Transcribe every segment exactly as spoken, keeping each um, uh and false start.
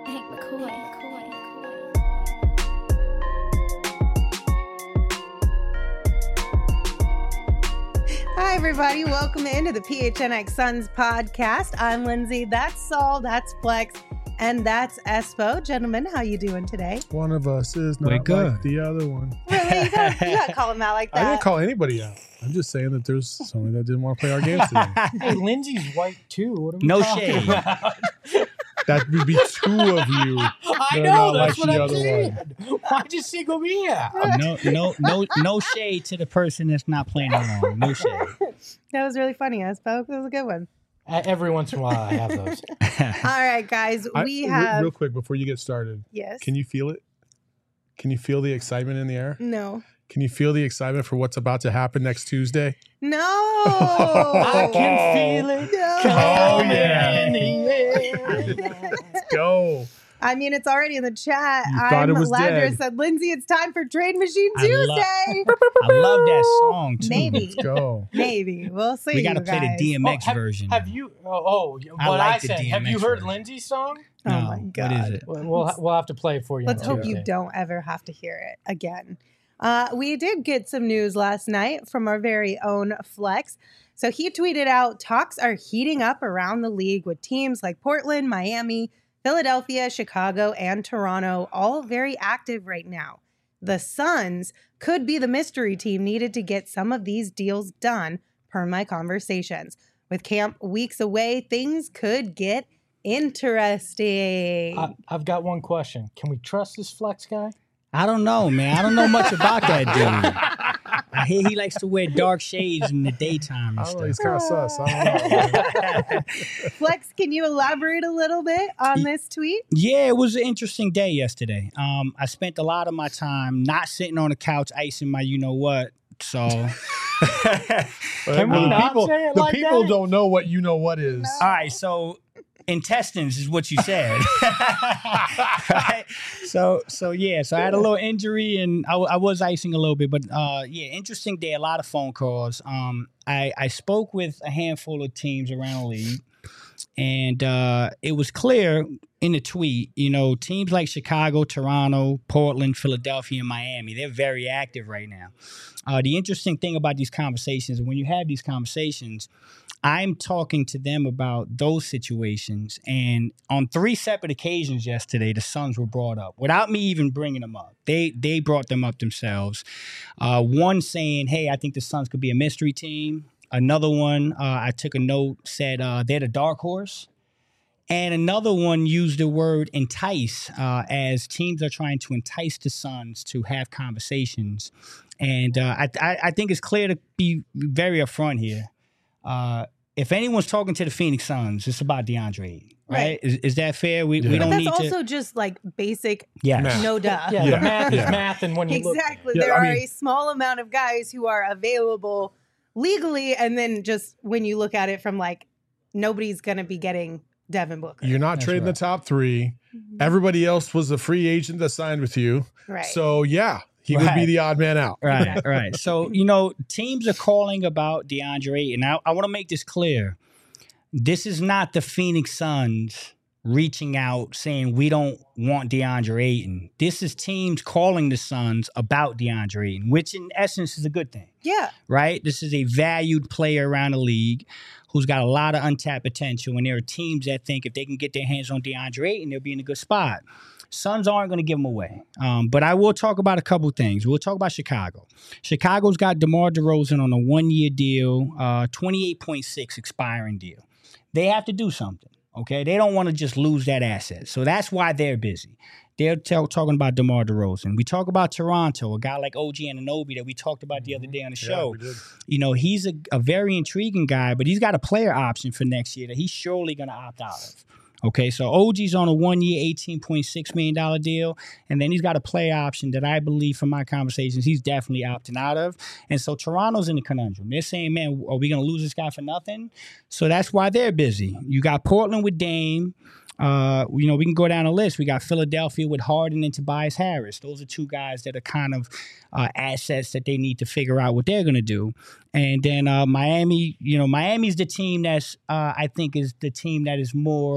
Hank McCoy. Hi, everybody. Welcome into the P H N X Suns podcast. I'm Lindsay. That's Saul. That's Flex. And that's Espo. Gentlemen, how you doing today? One of us is not We're like good. the other one. Really? You gotta, you gotta call him out like that. I didn't call anybody out. I'm just saying that there's somebody that didn't want to play our games today. Hey, Lindsay's white too. What are we No talking shade. about? That would be two of you. I They're know, not that's like what the I'm other saying. Why'd you single me out? No, no, no, no shade to the person that's not playing along. No shade. That was really funny, Espo. That was a good one. Uh, Every once in a while I have those. All right, guys. I- We re- have... Real quick, before you get started, Yes. can you feel it? Can you feel the excitement in the air? No. Can you feel the excitement for what's about to happen next Tuesday? No. I can feel it. No. Oh, coming yeah. in the air. Let's go. I mean, it's already in the chat. You thought I'm it was Ladra dead. said, Lindsay, it's time for Trade Machine I love- Tuesday. I love that song too. Maybe. Let's go. Maybe. We'll see. We got to you play the guys. D M X Oh, have, version. Have you? Oh, oh I what like I the said. D M Have you X heard version. Lindsay's song? Oh, No, my God. What is it? We'll we'll, we'll have to play it for you. Let's on hope you Tuesday. don't ever have to hear it again. Uh, we did get some news last night from our very own Flex. So he tweeted out, talks are heating up around the league with teams like Portland, Miami, Philadelphia, Chicago, and Toronto, all very active right now. The Suns could be the mystery team needed to get some of these deals done, per my conversations. With camp weeks away, things could get interesting. I, I've got one question. Can we trust this Flex guy? I don't know, man. I don't know much about that dude. I hear he likes to wear dark shades in the daytime I and don't know. He's stuff. kind of sus. I don't know. Flex, can you elaborate a little bit on this tweet? Yeah, it was an interesting day yesterday. Um, I spent a lot of my time not sitting on the couch icing my you know what. So, Can we the not people, say it the like people that? don't know what you know what is. all right, so intestines is what you said. Right? So, so yeah, so I had a little injury and I, w- I was icing a little bit, but uh, yeah, interesting day. A lot of phone calls. Um, I I spoke with a handful of teams around the league, and uh, it was clear in the tweet. You know, teams like Chicago, Toronto, Portland, Philadelphia, and Miami, they're very active right now. Uh, the interesting thing about these conversations, when you have these conversations, I'm talking to them about those situations. And on three separate occasions yesterday, the Suns were brought up without me even bringing them up. They they brought them up themselves. Uh, one saying, hey, I think the Suns could be a mystery team. Another one, uh, I took a note, said uh, they're the dark horse. And another one used the word entice uh, as teams are trying to entice the Suns to have conversations. And uh, I, I, I think it's clear to be very upfront here. Uh, if anyone's talking to the Phoenix Suns, it's about DeAndre Ayton, right? Right. Is, is that fair? We, Yeah. we But don't that's need also to. just like basic, Yes. Math. no duh. Yeah, Yeah. the math is Yeah. math, and when you Exactly. Yeah, there I are mean- a small amount of guys who are available legally, and then just when you look at it from like, nobody's going to be getting Devin Booker. You're not That's trading right. the top three. Mhm. Everybody else was a free agent that signed with you. Right. So, yeah, he would be Right. the odd man out. Right, right. So, you know, teams are calling about DeAndre Ayton. I, I want to make this clear. This is not the Phoenix Suns reaching out saying we don't want DeAndre Ayton. This is teams calling the Suns about DeAndre Ayton, which in essence is a good thing, yeah. right? This is a valued player around the league who's got a lot of untapped potential. And there are teams that think if they can get their hands on DeAndre Ayton, they'll be in a good spot. Suns aren't going to give him away. Um, but I will talk about a couple things. We'll talk about Chicago. Chicago's got DeMar DeRozan on a one-year deal, uh, twenty-eight point six expiring deal. They have to do something, okay? They don't want to just lose that asset. So that's why they're busy. They're t- talking about DeMar DeRozan. We talk about Toronto, a guy like O G Anunoby that we talked about the other day on the Yeah, show. we did. You know, he's a, a very intriguing guy, but he's got a player option for next year that he's surely going to opt out of. Okay, so O G's on a one-year, eighteen point six million dollars deal, and then he's got a play option that I believe from my conversations he's definitely opting out of. And so Toronto's in the conundrum. They're saying, man, are we going to lose this guy for nothing? So that's why they're busy. You got Portland with Dame. Uh, you know, we can go down the list. We got Philadelphia with Harden and Tobias Harris. Those are two guys that are kind of uh, assets that they need to figure out what they're going to do. And then uh, Miami, you know, Miami's the team that's, uh, I think, is the team that is more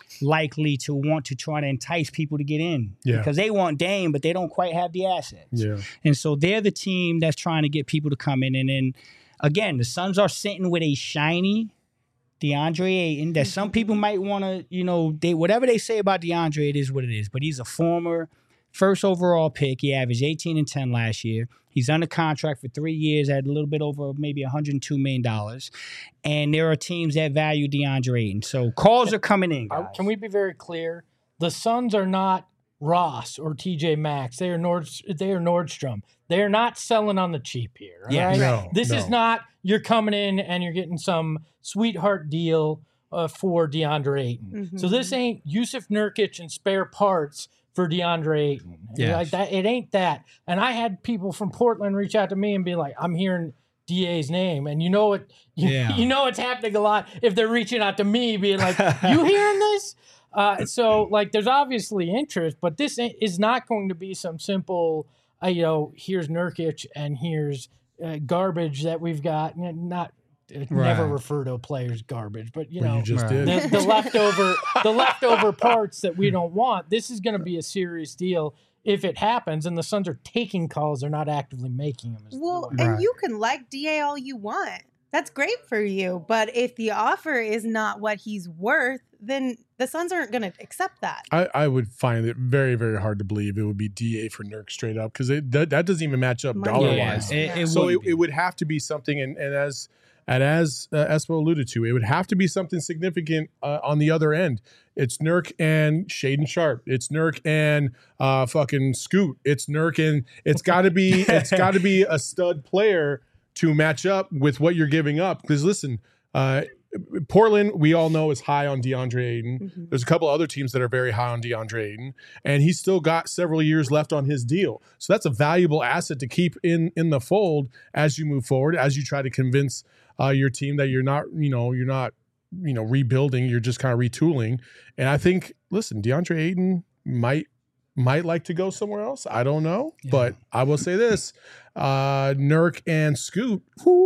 likely to want to try to entice people to get in Yeah. because they want Dame, but they don't quite have the assets. Yeah. And so they're the team that's trying to get people to come in. And then again, the Suns are sitting with a shiny DeAndre Ayton that some people might want to, you know, they whatever they say about DeAndre, it is what it is. But he's a former first overall pick. He averaged eighteen and ten last year. He's under contract for three years at a little bit over maybe one hundred two million dollars. And there are teams that value DeAndre Ayton. So calls are coming in, guys. Can we be very clear? The Suns are not Ross or T J Maxx. They are Nord. They are Nordstrom. They are not selling on the cheap here. all Yeah. right? No, This no. is not you're coming in and you're getting some sweetheart deal uh, for DeAndre Ayton. So this ain't Yusuf Nurkic and spare parts for DeAndre Ayton. Yes. Like that, it ain't that. And I had people from Portland reach out to me and be like, "I'm hearing D A's name," and you know it. You, Yeah. you know it's happening a lot if they're reaching out to me, being like, "You hearing this?" Uh, so like, there's obviously interest, but this ain't- is not going to be some simple, uh, you know, here's Nurkic and here's uh, garbage that we've got. N- Not uh, never Right. refer to a player as garbage, but you Well, know, you just Right. did. the, the leftover the leftover parts that we don't want. This is going to be a serious deal if it happens, and the Suns are taking calls; they're not actively making them. is the Well, way. and Right. you can like D A all you want. That's great for you. But if the offer is not what he's worth, then the Suns aren't going to accept that. I, I would find it very, very hard to believe it would be D A for Nurk straight up because that, that doesn't even match up Money dollar Yeah, wise. it, it So would it, be. it would have to be something, and, and as and as uh, Espo alluded to, it would have to be something significant uh, on the other end. It's Nurk and Shaden Sharp. It's Nurk and uh, fucking Scoot. It's Nurk and it's got to be it's got to be a stud player to match up with what you're giving up. Because listen, uh, Portland, we all know is high on DeAndre Ayton. Mm-hmm. There's a couple other teams that are very high on DeAndre Ayton, and he's still got several years left on his deal. So that's a valuable asset to keep in in the fold as you move forward, as you try to convince uh, your team that you're not, you know, you're not, you know, rebuilding. You're just kind of retooling. And I think, listen, DeAndre Ayton might might like to go somewhere else. I don't know, Yeah. but I will say this: uh, Nurk and Scoot. whoo,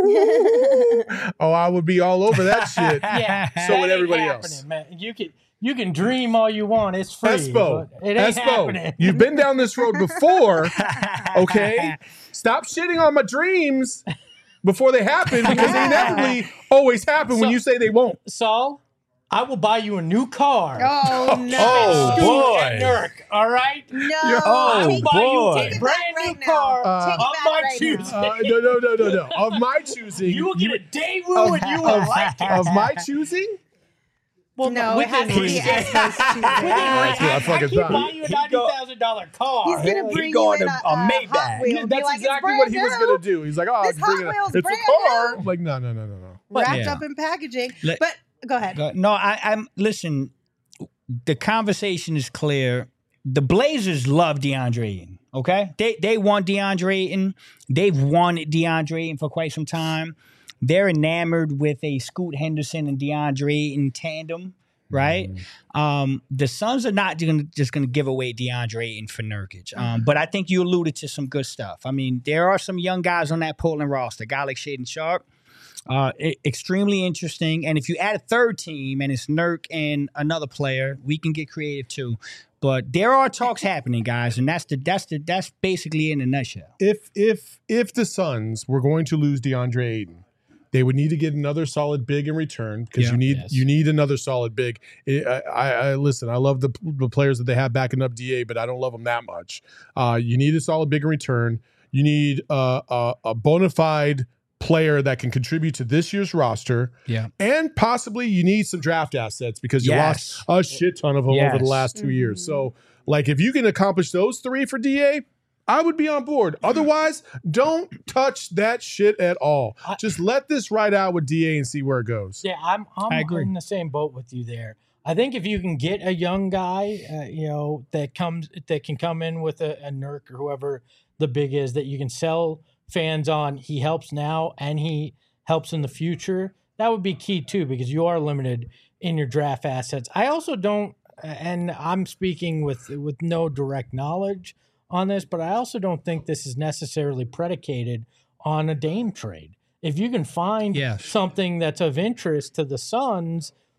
oh, I would be all over that shit. Yeah, So that would ain't everybody happening, else. man. You can you can dream all you want. It's free. Espo, but it ain't Espo, happening. you've been down this road before. Okay, stop shitting on my dreams before they happen because they inevitably always happen when So- you say they won't. Saul, I will buy you a new car. Oh, no. Oh, Scoot boy. and Nurk, all right? No. Oh, take, buy you boy. a take it brand back new right now. car Uh, Take it of back my right choosing. now. Uh, no, no, no, no, no. Of my choosing, You will get a Daewoo of, and you will of- like it. of my choosing. Well, No, it within has to be reason. Espo's choosing. Within Yeah, reason. I I, fucking I keep thought. buying you a He ninety go- thousand dollar car. He's gonna He bring going you in to a, a a Maybach. Hot Wheel and be That's like, exactly it's what he was brand gonna new, do. He's like, "Oh, This I'm bringing Hot it. Wheel's It's a brand car." new. I'm like, no, no, no, no, no. But- wrapped Yeah. up in packaging. Let- But go ahead. Go- No, I, I'm listen. The conversation is clear. The Blazers love DeAndre Ayton. Okay, they they want DeAndre Ayton. They've wanted DeAndre Ayton for quite some time. They're enamored with a Scoot Henderson and DeAndre Ayton tandem, right? Um, the Suns are not gonna, just going to give away DeAndre Ayton for Nurkic. Um, but I think you alluded to some good stuff. I mean, there are some young guys on that Portland roster. A guy like Shaden Sharp. Uh, e- extremely interesting. And if you add a third team and it's Nurk and another player, we can get creative too. But there are talks happening, guys, and that's the that's the that's basically in a nutshell. If if if the Suns were going to lose DeAndre Ayton, they would need to get another solid big in return because Yeah. you need Yes. you need another solid big. I, I, I listen. I love the the players that they have backing up D A, but I don't love them that much. Uh, you need a solid big in return. You need uh, a a bona fide player that can contribute to this year's roster, Yeah. and possibly you need some draft assets because you Yes. lost a shit ton of them over the Yes. last two years. Mhm. So, like, if you can accomplish those three for D A, I would be on board. Otherwise, don't touch that shit at all. I- Just let this ride out with D A and see where it goes. Yeah, I'm I'm I agree. in the same boat with you there. I think if you can get a young guy, uh, you know, that comes that can come in with a, a Nurk or whoever the big is that you can sell fans on, he helps now and he helps in the future. That would be key too because you are limited in your draft assets. I also don't, and I'm speaking with with no direct knowledge on this, but I also don't think this is necessarily predicated on a Dame trade. If you can find Yes. something that's of interest to the Suns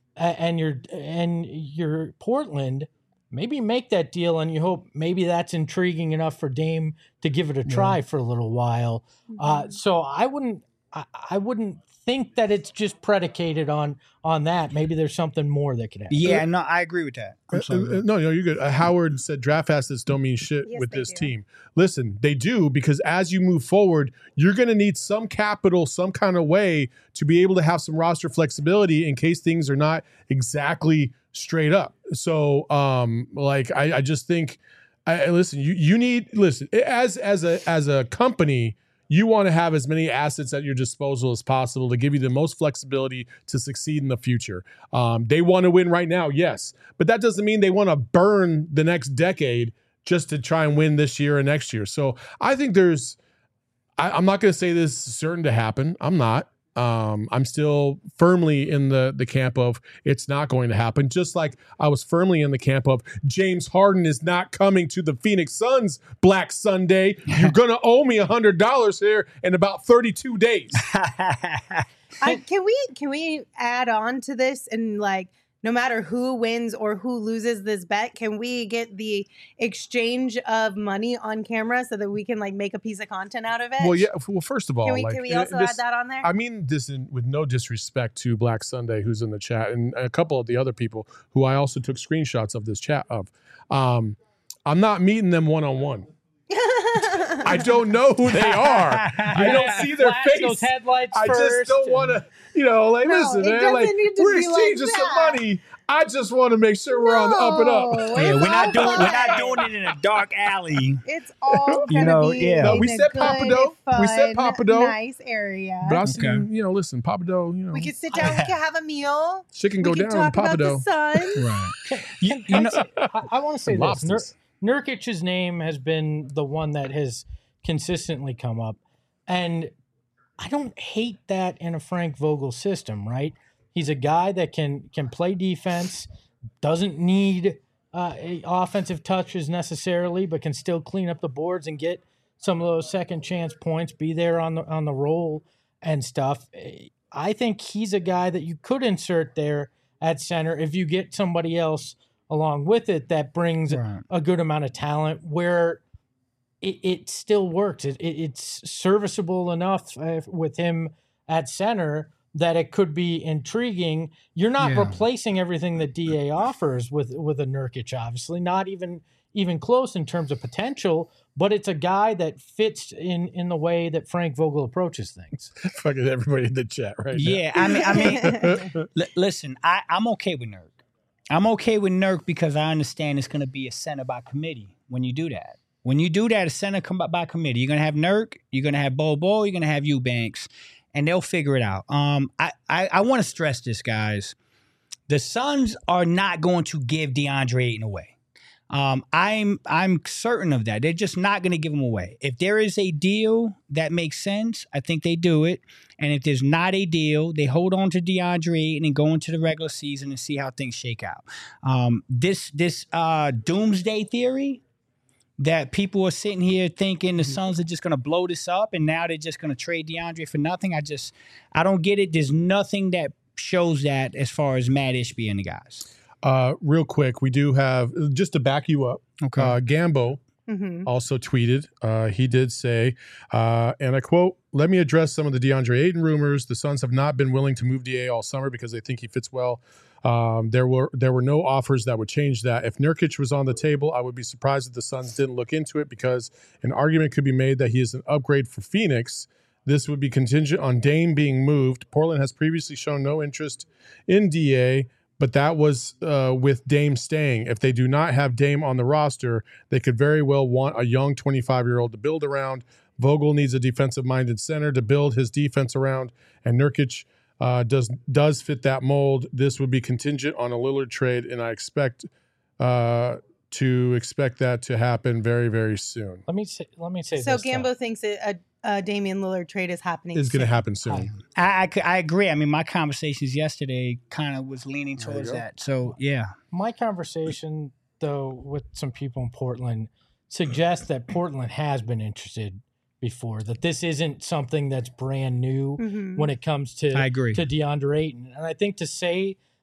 and you're and you're Portland, maybe make that deal, and you hope maybe that's intriguing enough for Dame to give it a try yeah. for a little while. Mm-hmm. Uh, so I wouldn't, I, I wouldn't think that it's just predicated on on that. Maybe there's something more that could happen. Yeah, no, I agree with that. Uh, uh, no, no, you're good. Uh, Howard said draft assets don't mean shit yes, with this do. team. Listen, they do, because as you move forward, you're going to need some capital, some kind of way to be able to have some roster flexibility in case things are not exactly straight up. So, um, like, I, I just think, I listen. You you need listen as as a as a company. You want to have as many assets at your disposal as possible to give you the most flexibility to succeed in the future. Um, they want to win right now, yes, but that doesn't mean they want to burn the next decade just to try and win this year and next year. So I think there's. I, I'm not going to say this is certain to happen. I'm not. Um, I'm still firmly in the, the camp of it's not going to happen, just like I was firmly in the camp of James Harden is not coming to the Phoenix Suns Black Sunday. You're going to owe me one hundred dollars here in about thirty-two days. I, can we can we add on to this and like, no matter who wins or who loses this bet, can we get the exchange of money on camera so that we can like make a piece of content out of it? Well, yeah. Well, first of all, can we, like, can we also this, add that on there? I mean this in, with no disrespect to Black Sunday, who's in the chat, and a couple of the other people who I also took screenshots of this chat of. Um, I'm not meeting them one on one. I don't know who they are. I don't see their Flash face. Those headlights I first just don't want to, you know, like, No, listen, it man, like, doesn't need to we're be like exchanging that. some money. I just want to make sure we're on the up and up. No, Yeah, it's we're not all doing we're not fine. doing it in a dark alley. It's all You gonna know, be yeah. No, in we a said good, Papado. We said fun, Papado. nice area. But I was Okay. thinking, you know, listen, Papado, you know, We could sit down. We could have a meal. shit can go we can down in talk about the Papado. sun. Right. You, you know, I, I want to say Some this. Nur- lobsters. Nurkic's name has been the one that has consistently come up. And I don't hate that in a Frank Vogel system, right? He's a guy that can can play defense, doesn't need uh, offensive touches necessarily, but can still clean up the boards and get some of those second chance points, be there on the on the roll and stuff. I think he's a guy that you could insert there at center if you get somebody else along with it that brings Right. a good amount of talent where it, it still works. It, it, it's serviceable enough uh, with him at center that it could be intriguing. You're not Yeah. replacing everything that D A offers with with a Nurkic, obviously, not even even close in terms of potential, but it's a guy that fits in in the way that Frank Vogel approaches things. Fucking everybody in the chat right yeah, I mean, I mean, l- listen, I, I'm okay with Nurk. I'm okay with Nurk because I understand it's going to be a center by committee when you do that. When you do that, a center come by, by committee. You're going to have Nurk, you're going to have Bobo, you're going to have Eubanks, and they'll figure it out. Um, I, I, I want to stress this, guys. The Suns are not going to give DeAndre Ayton away. Um, I'm I'm certain of that. They're just not going to give him away. If there is a deal that makes sense, I think they do it. And if there's not a deal, they hold on to DeAndre Ayton and go into the regular season and see how things shake out. Um, this this uh, doomsday theory that people are sitting here thinking the Suns are just going to blow this up and now they're just going to trade DeAndre for nothing. I just I don't get it. There's nothing that shows that as far as Matt Ishbia and the guys. Uh, real quick, we do have, just to back you up, Okay. uh, Gambo Mm-hmm. also tweeted. Uh, he did say, uh, and I quote, "Let me address some of the DeAndre Ayton rumors. The Suns have not been willing to move D A all summer because they think he fits well. Um, there were there were no offers that would change that. If Nurkic was on the table, I would be surprised if the Suns didn't look into it because an argument could be made that he is an upgrade for Phoenix. This would be contingent on Dame being moved. Portland has previously shown no interest in D A, but that was uh, with Dame staying. If they do not have Dame on the roster, they could very well want a young twenty-five-year-old to build around. Vogel needs a defensive-minded center to build his defense around, and Nurkic uh, does does fit that mold. This would be contingent on a Lillard trade, and I expect uh, to expect that to happen very, very soon. Let me say, let me say So this. Gambo though. thinks that a, a Damian Lillard trade is happening. It's going to soon. happen soon. I, I, c- I agree. I mean, my conversations yesterday kind of was leaning There you towards go. that. So, yeah. My conversation, though, with some people in Portland suggests that Portland has been interested before, that this isn't something that's brand new Mhm. when it comes to, I agree. to DeAndre Ayton. And I think to say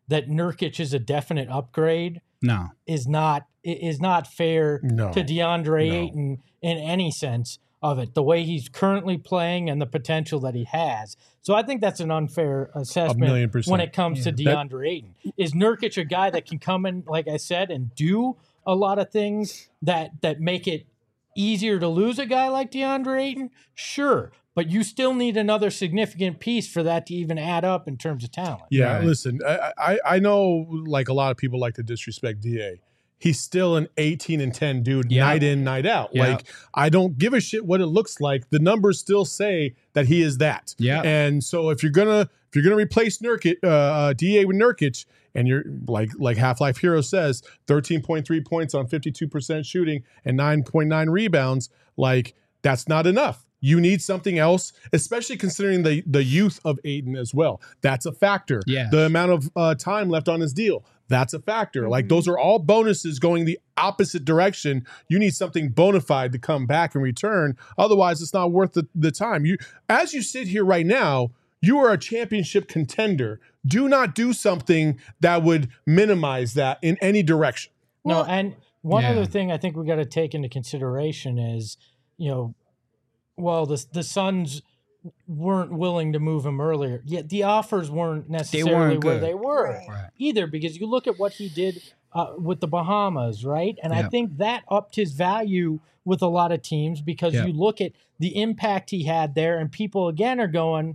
that Nurkic is a definite upgrade No. is not is not fair No. to DeAndre No. Ayton in any sense of it. The way he's currently playing and the potential that he has. So I think that's an unfair assessment million percent. when it comes to Yeah. DeAndre Ayton. Is Nurkic a guy that can come in, like I said, and do a lot of things that that make it easier to lose a guy like DeAndre Ayton? Sure. But you still need another significant piece for that to even add up in terms of talent. Yeah, Right. listen, I, I I know like a lot of people like to disrespect D A. He's still an eighteen and ten dude, Yeah. night in, night out. Yeah. Like I don't give a shit what it looks like. The numbers still say that he is that. Yeah. And so if you're gonna if you're gonna replace Nurkic, uh, uh, D A with Nurkic, and you're like like Half-Life Hero says, thirteen point three points on fifty-two percent shooting and nine point nine rebounds, like that's not enough. You need something else, especially considering the the youth of Ayton as well. That's a factor. Yeah. The amount of uh, time left on his deal. That's a factor. Mm-hmm. Like those are all bonuses going the opposite direction. You need something bona fide to come back and return. Otherwise, it's not worth the, the time. You, as you sit here right now, you are a championship contender. Do not do something that would minimize that in any direction. No, Well- and one Yeah. other thing I think we got to take into consideration is, you know, well, the the Suns weren't willing to move him earlier. Yet the offers weren't necessarily weren't where good. they were Right. Right. either, because you look at what he did uh, with the Bahamas, right? And I Yeah. think that upped his value with a lot of teams because Yeah. you look at the impact he had there, and people again are going,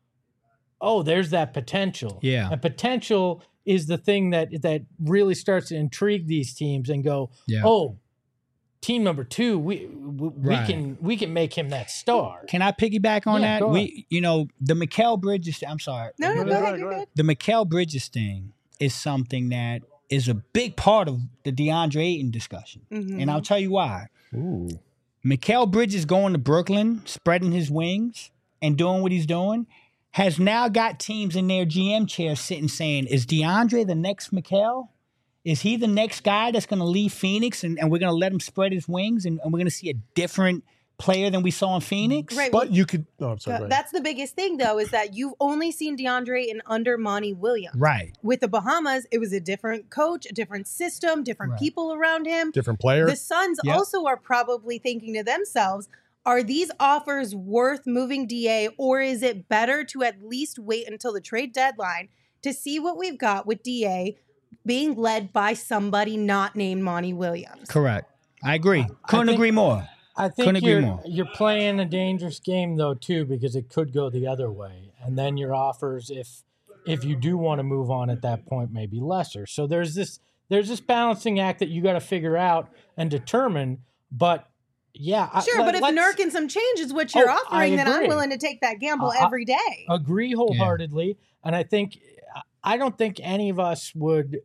"Oh, there's that potential." Yeah. and potential is the thing that that really starts to intrigue these teams and go, Yeah. "Oh, team number two, we we, Right. we can we can make him that star." Can I piggyback on Yeah, that? go We, you know, the Mikal Bridges. I'm sorry. No, no, Go go ahead, ahead. go You're ahead. good. The Mikal Bridges thing is something that is a big part of the DeAndre Ayton discussion, Mhm. and I'll tell you why. Ooh. Mikal Bridges going to Brooklyn, spreading his wings and doing what he's doing, has now got teams in their G M chairs sitting saying, is DeAndre the next Mikal? Is he the next guy that's going to leave Phoenix and, and we're going to let him spread his wings and, and we're going to see a different player than we saw in Phoenix? Right. But you could. Oh, I'm sorry. Uh, go ahead. That's the biggest thing, though, is that you've only seen DeAndre in under Monty Williams. Right. With the Bahamas, it was a different coach, a different system, different Right. people around him. Different player. The Suns Yep. also are probably thinking to themselves, are these offers worth moving D A, or is it better to at least wait until the trade deadline to see what we've got with D A being led by somebody not named Monty Williams? Correct. I agree. Couldn't think- agree more. I Couldn't think agree you're more. you're playing a dangerous game though too, because it could go the other way, and then your offers, if if you do want to move on at that point, may be lesser. So there's this there's this balancing act that you got to figure out and determine. But yeah, I- Sure, let- but if let's Nurk and some change is what you're Oh, I offering, then I'm agree. willing to take that gamble Uh, I- every day. agree wholeheartedly, and I think I don't think any of us would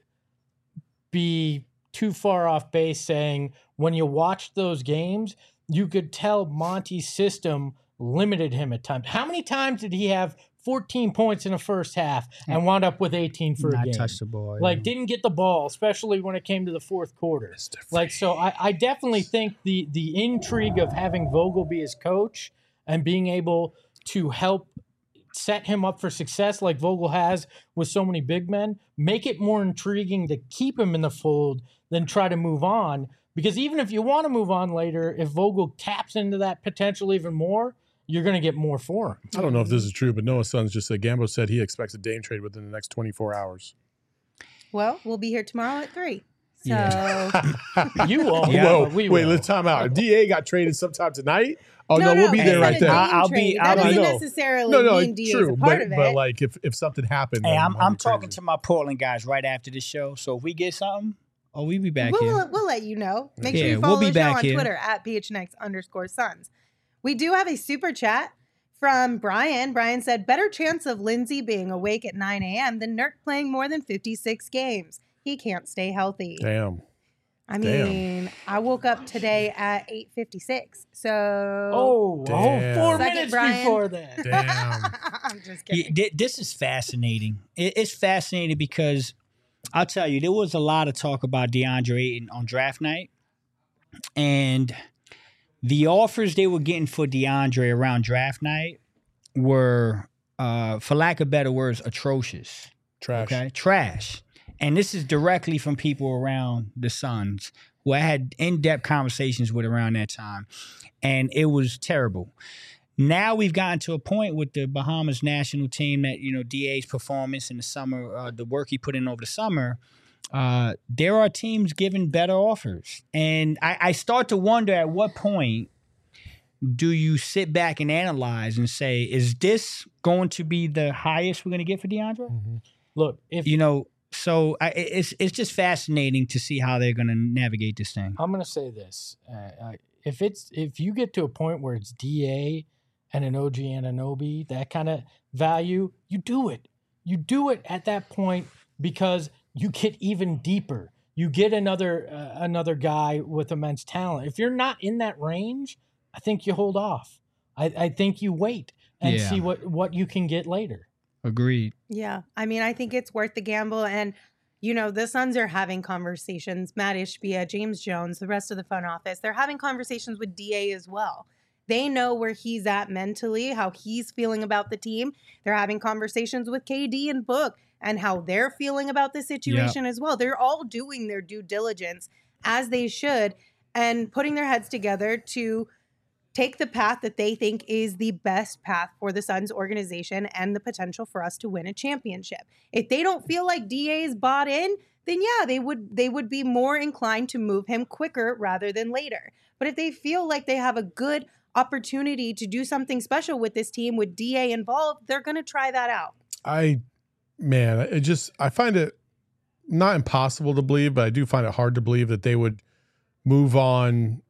be too far off base saying when you watch those games, you could tell Monty's system limited him at times. How many times did he have fourteen points in the first half and wound up with eighteen for a Not game? touch the ball. Like yeah. didn't get the ball, especially when it came to the fourth quarter. Like so, I, I definitely think the the intrigue of having Vogel be his coach and being able to help set him up for success like Vogel has with so many big men, make it more intriguing to keep him in the fold than try to move on. Because even if you want to move on later, if Vogel taps into that potential even more, you're going to get more for him. I don't know if this is true, but Noah Sons just said Gambo said he expects a Dame trade within the next twenty-four hours. Well, we'll be here tomorrow at three. So Yeah. You won't. Yeah. Whoa, but we wait, will. let's time out. If D A got traded sometime tonight, oh no, no, we'll be he there said right a there. Dame I'll be- trade. I'll That be- doesn't No. necessarily No, no, mean D A is true, a part but, of it. but like if, if something happened, Hey, then I'm that'd I'm be talking crazy. to my Portland guys right after the show. So if we get something, oh, we be back we'll, here. we'll, we'll let you know. Make sure Yeah, you we'll follow be the show back on here. Twitter at P H N X underscore Suns. We do have a super chat from Brian. Brian said, better chance of Lindsay being awake at nine a.m. than Nurk playing more than fifty-six games. He can't stay healthy. Damn. I Damn. mean, I woke up today at eight fifty-six. So Oh, Damn. oh, four Suck it, minutes Brian. before that. Damn. I'm just Yeah, kidding. thi- this is fascinating. It- It's fascinating because I'll tell you, there was a lot of talk about DeAndre Ayton on draft night, and the offers they were getting for DeAndre around draft night were, uh, for lack of better words, atrocious. Trash. Okay, trash. And this is directly from people around the Suns who I had in-depth conversations with around that time, and it was terrible. Now we've gotten to a point with the Bahamas national team that, you know, D A's performance in the summer, uh, the work he put in over the summer, uh, there are teams giving better offers. And I, I start to wonder, at what point do you sit back and analyze and say, is this going to be the highest we're going to get for DeAndre? Mm-hmm. Look, if You know, so I, it's it's just fascinating to see how they're going to navigate this thing. I'm going to say this, uh, uh, if it's if you get to a point where it's D A and an O G Anunoby, that kind of value, you do it. You do it at that point because you get even deeper. You get another uh, another guy with immense talent. If you're not in that range, I think you hold off. I, I think you wait and Yeah. see what, what you can get later. Agreed. Yeah. I mean, I think it's worth the gamble. And, you know, the Suns are having conversations. Matt Ishbia, James Jones, the rest of the front office, they're having conversations with D A as well. They know where he's at mentally, how he's feeling about the team. They're having conversations with K D and Book and how they're feeling about the situation as well. They're all doing their due diligence as they should and putting their heads together to take the path that they think is the best path for the Suns organization and the potential for us to win a championship. If they don't feel like D A is bought in, then yeah, they would they would be more inclined to move him quicker rather than later. But if they feel like they have a good opportunity to do something special with this team with D A involved, they're going to try that out. I, man, it just, I find it not impossible to believe, but I do find it hard to believe that they would move on,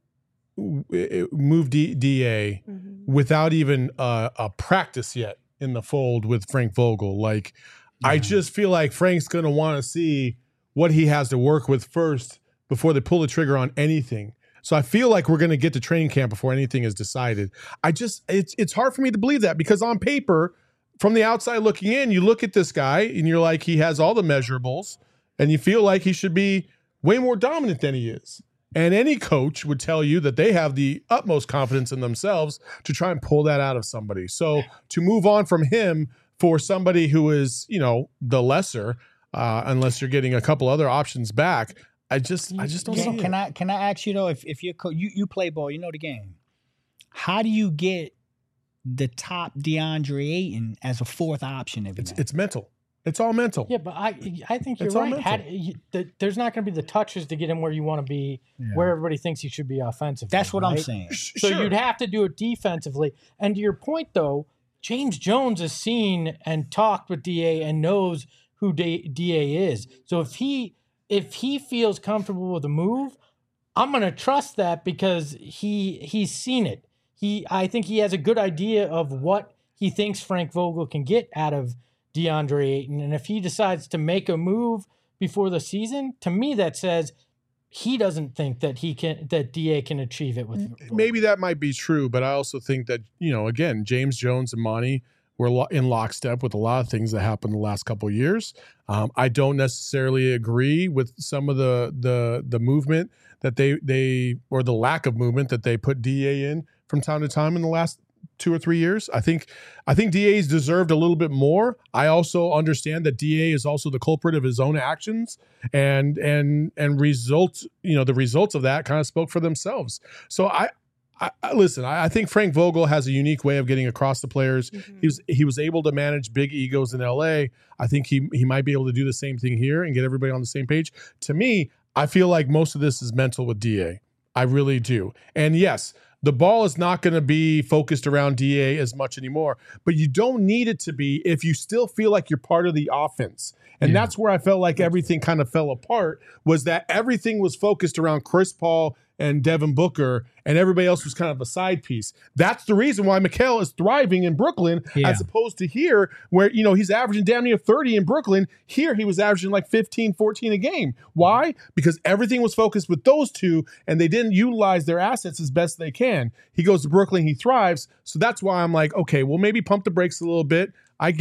move D, DA Mm-hmm. without even a, a practice yet in the fold with Frank Vogel. Like, I just feel like Frank's going to want to see what he has to work with first before they pull the trigger on anything. So I feel like we're going to get to training camp before anything is decided. I just, it's it's hard for me to believe that because on paper, from the outside looking in, you look at this guy and you're like, he has all the measurables and you feel like he should be way more dominant than he is. And any coach would tell you that they have the utmost confidence in themselves to try and pull that out of somebody. So to move on from him for somebody who is, you know, the lesser, uh, unless you're getting a couple other options back, I just, I just don't Can, see can it. I can I ask you though, if if you're co- you you play ball, you know the game. How do you get the top DeAndre Ayton as a fourth option every It's night? it's mental. It's all mental. Yeah, but I I think you're It's all right. mental. How do you, the, there's not going to be the touches to get him where you want to be, where everybody thinks he should be offensively. That's what I'm right? saying. So Sure. you'd have to do it defensively. And to your point, though, James Jones has seen and talked with D A and knows who D- DA is. So if he if he feels comfortable with the move, I'm going to trust that because he he's seen it. He I think he has a good idea of what he thinks Frank Vogel can get out of DeAndre Ayton. And if he decides to make a move before the season, to me that says he doesn't think that he can that D A can achieve it with Vogel. Maybe that might be true, but I also think that, you know, again, James Jones and Monty were lo- in lockstep with a lot of things that happened the last couple of years. Um, I don't necessarily agree with some of the the the movement that they they or the lack of movement that they put D A in from time to time in the last two or three years. I think I think D A's deserved a little bit more. I also understand that D A is also the culprit of his own actions, and and and results, you know, the results of that kind of spoke for themselves. So I, I, I listen. I, I think Frank Vogel has a unique way of getting across the players. Mm-hmm. He was he was able to manage big egos in L A. I think he he might be able to do the same thing here and get everybody on the same page. To me, I feel like most of this is mental with D A. I really do. And yes, the ball is not going to be focused around D A as much anymore, but you don't need it to be if you still feel like you're part of the offense. And Yeah. that's where I felt like everything kind of fell apart, was that everything was focused around Chris Paul and Devin Booker, and everybody else was kind of a side piece. That's the reason why Mikal is thriving in Brooklyn, Yeah. as opposed to here, where, you know, he's averaging damn near thirty in Brooklyn. Here, he was averaging like fifteen, fourteen a game. Why? Because everything was focused with those two, and they didn't utilize their assets as best they can. He goes to Brooklyn, he thrives. So that's why I'm like, okay, well, maybe pump the brakes a little bit. I get it.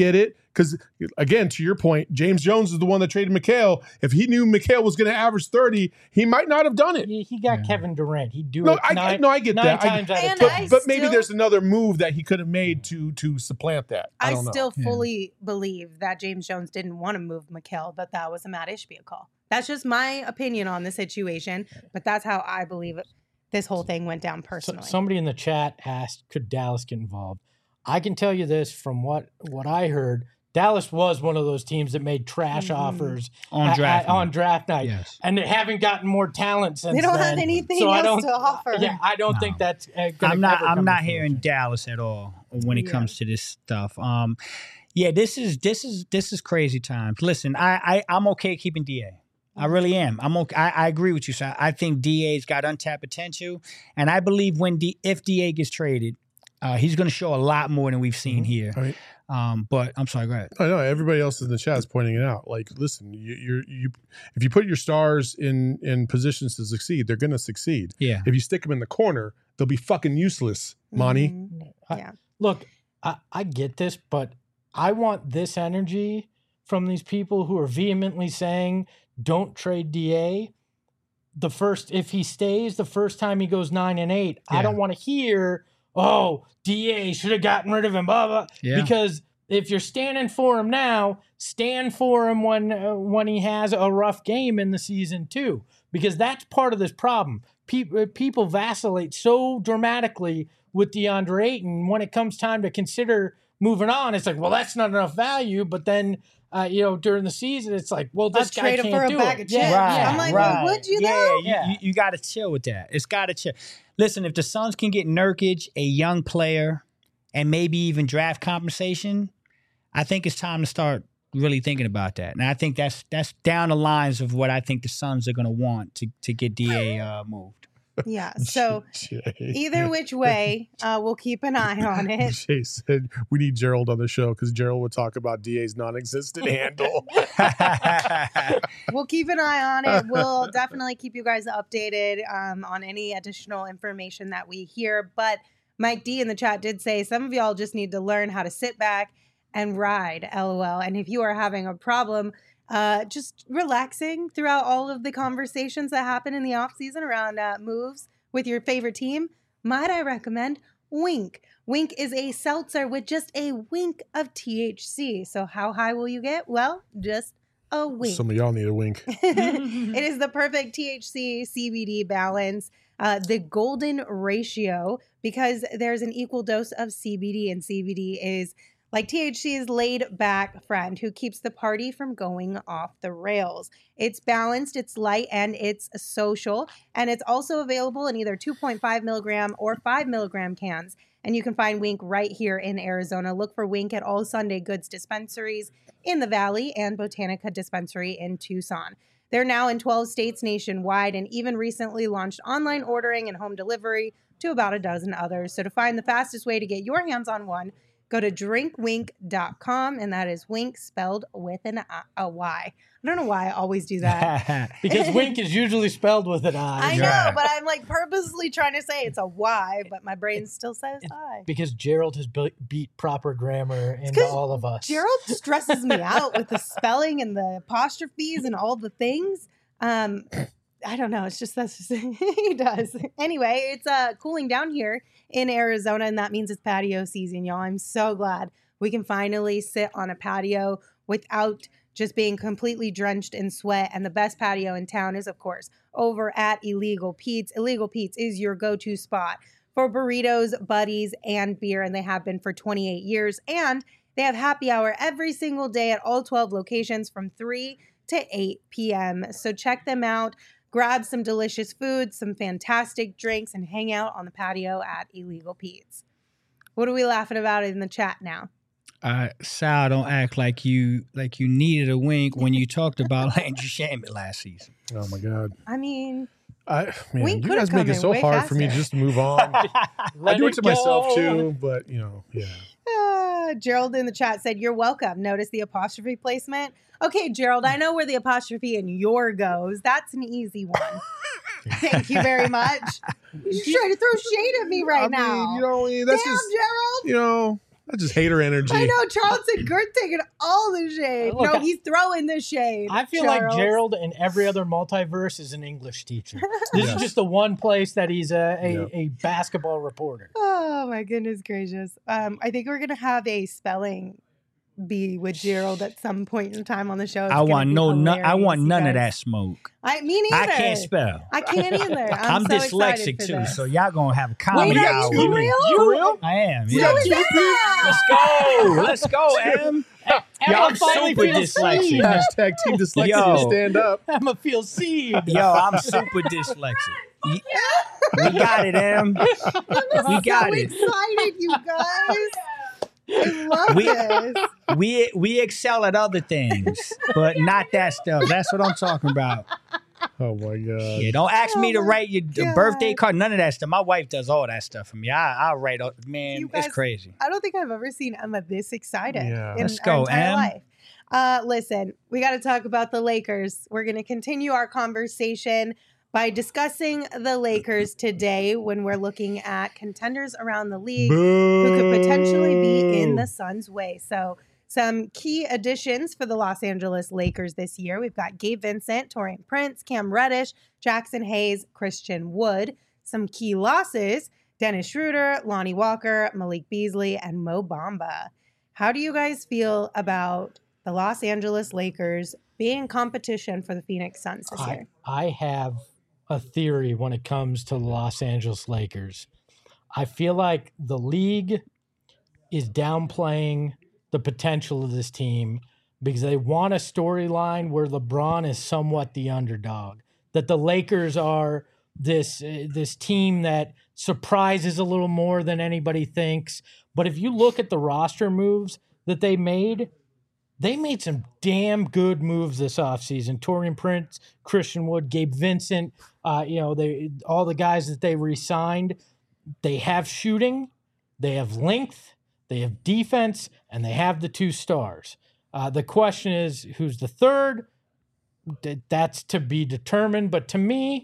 Because again, to your point, James Jones is the one that traded McHale. If he knew McHale was going to average thirty, he might not have done it. He, he got Yeah. Kevin Durant. He'd do No, it I, nine, I no, I get nine that. I- times out of And ten. but, I but maybe still- there's another move that he could have made to to supplant that. I, I, don't know. still Yeah. fully believe that James Jones didn't want to move McHale, that that was a Matt Ishbia call. That's just my opinion on the situation, but that's how I believe it, this whole thing went down So- personally. somebody in the chat asked, could Dallas get involved? I can tell you this from what, what I heard. Dallas was one of those teams that made trash Mhm. offers On at- draft at- night. on draft night. Yes. And they haven't gotten more talent since they don't then. have anything So I else don't, to offer. Yeah, I don't No. think that's uh, gonna I'm not. ever I'm come not to hearing fruition. Dallas at all when it Yeah. comes to this stuff. Um, yeah, this is this is this is crazy times. Listen, I, I I'm okay keeping D A. I really am. I'm okay. I, I agree with you. So I think D A's got untapped potential, and I believe when D if D A gets traded, uh, he's going to show a lot more than we've seen here. I mean, Um, but I'm sorry. Go ahead. I know everybody else in the chat is pointing it out. Like, listen, you, you're you if you put your stars in in positions to succeed, they're going to succeed. Yeah. If you stick them in the corner, they'll be fucking useless, Monty. Mhm. I- Yeah. Look, I, I get this, but I want this energy from these people who are vehemently saying, don't trade D A. The first, if he stays, the first time he goes nine and eight, I Yeah. don't want to hear, oh, D A should have gotten rid of him, blah, blah. Yeah. Because if you're standing for him now, stand for him when uh, when he has a rough game in the season too, because that's part of this problem. People people vacillate so dramatically with DeAndre Ayton. When it comes time to consider moving on, it's like, well, that's not enough value. But then, uh, you know, during the season, it's like, well, this I'll guy trade him can't for a do bag it. of Yeah, chips. yeah. I'm like, well, would you yeah, though? You, Yeah. you, you got to chill with that. It's got to chill. Listen, if the Suns can get Nurkic, a young player, and maybe even draft compensation, I think it's time to start really thinking about that. And I think that's that's down the lines of what I think the Suns are going to want to to get D A uh, moved. Yeah. So Jay. either which way, uh, we'll keep an eye on it. Jay said we need Gerald on the show because Gerald would talk about D A's non-existent handle. We'll keep an eye on it. We'll definitely keep you guys updated um, on any additional information that we hear. But Mike D in the chat did say some of y'all just need to learn how to sit back and ride, LOL. And if you are having a problem uh, just relaxing throughout all of the conversations that happen in the off season around uh, moves with your favorite team, might I recommend Wink. Wink is a seltzer with just a wink of T H C. So how high will you get? Well, just a wink. Some of y'all need a wink. It is the perfect T H C C B D balance, uh, the golden ratio, because there's an equal dose of C B D, and C B D is like T H C's laid back friend who keeps the party from going off the rails. It's balanced, it's light, and it's social. And it's also available in either two point five milligram or five milligram cans. And you can find Wink right here in Arizona. Look for Wink at all Sunday Goods dispensaries in the Valley and Botanica Dispensary in Tucson. They're now in twelve states nationwide and even recently launched online ordering and home delivery to about a dozen others. So to find the fastest way to get your hands on one, go to drink wink dot com, and that is wink spelled with an I, a Y. I don't know why I always do that. Because wink is usually spelled with an I. I know, Right. but I'm like purposely trying to say it's a Y, but my brain still says I. Because Gerald has be- beat proper grammar into 'cause all of us. Gerald stresses me out with the spelling and the apostrophes and all the things. Um, I don't know. It's just that's just, he does. Anyway, it's uh cooling down here in Arizona, and that means it's patio season, y'all. I'm so glad we can finally sit on a patio without just being completely drenched in sweat. And the best patio in town is, of course, over at Illegal Pete's. Illegal Pete's is your go-to spot for burritos, buddies, and beer, and they have been for twenty-eight years. And they have happy hour every single day at all twelve locations from three to eight p.m. So check them out. Grab some delicious food, some fantastic drinks, and hang out on the patio at Illegal Pete's. What are we laughing about in the chat now? Uh, Sal, don't act like you like you needed a wink when you talked about Landry Shamet last season. Oh my god. I mean, I man, We you could've guys make come it in so way hard for me to faster. just move on. I Let do it to myself go. too, but you know, yeah. uh, Gerald in the chat said, "You're welcome." Notice the apostrophe placement. Okay, Gerald, I know where the apostrophe in your goes. That's an easy one. Thank you very much. You're trying to throw shade at me right I now. mean, you know, that's Damn, just Gerald. you know, That's just hater energy. I know Charlton Gurt taking all the shade. Look, no, I- he's throwing the shade. I feel Charles. like Gerald in every other multiverse is an English teacher. This Yes. is just the one place that he's a, a, Yeah. a basketball reporter. Oh my goodness gracious. Um, I think we're gonna have a spelling bee with Gerald at some point in time on the show. It's I gonna want be no, no, I hilarious, want you none of guys. that smoke. I me I neither. can't spell. I can't either. I'm, I'm so excited dyslexic for too, this. so y'all gonna have a Wait, comedy are hour. you with for me. real? You real? I am. So Yeah. is that. Let's go. Let's go, Em. Emma I'm finally super feels dyslexic. seen. Hashtag Team Dyslexia Yo. stand up. Emma feels seen. Yo, I'm super dyslexic. Y- We got it, Em. We got so it. excited, you guys. I love We- this. We we excel at other things, but not that stuff. That's what I'm talking about. Oh my god. Yeah, don't ask me Oh to my write your d- God. birthday card. None of that stuff. My wife does all that stuff for me. I I write. All, man, You guys- it's crazy. I don't think I've ever seen Emma this excited Yeah. in Let's our go, entire Em. life. Uh, listen, we got to talk about the Lakers. We're going to continue our conversation by discussing the Lakers today when we're looking at contenders around the league who could potentially be in the Suns' way. So, some key additions for the Los Angeles Lakers this year. We've got Gabe Vincent, Taurean Prince, Cam Reddish, Jackson Hayes, Christian Wood. Some key losses: Dennis Schroeder, Lonnie Walker, Malik Beasley, and Mo Bamba. How do you guys feel about the Los Angeles Lakers being in competition for the Phoenix Suns this I, year? I have a theory when it comes to the Los Angeles Lakers. I feel like the league is downplaying the potential of this team because they want a storyline where LeBron is somewhat the underdog, that the Lakers are this uh, this team that surprises a little more than anybody thinks. But if you look at the roster moves that they made, they made some damn good moves this offseason. Taurean Prince, Christian Wood, Gabe Vincent, uh, you know, they all the guys that they re-signed, they have shooting, they have length, they have defense, and they have the two stars. Uh, the question is, who's the third? Th- That's to be determined. But to me,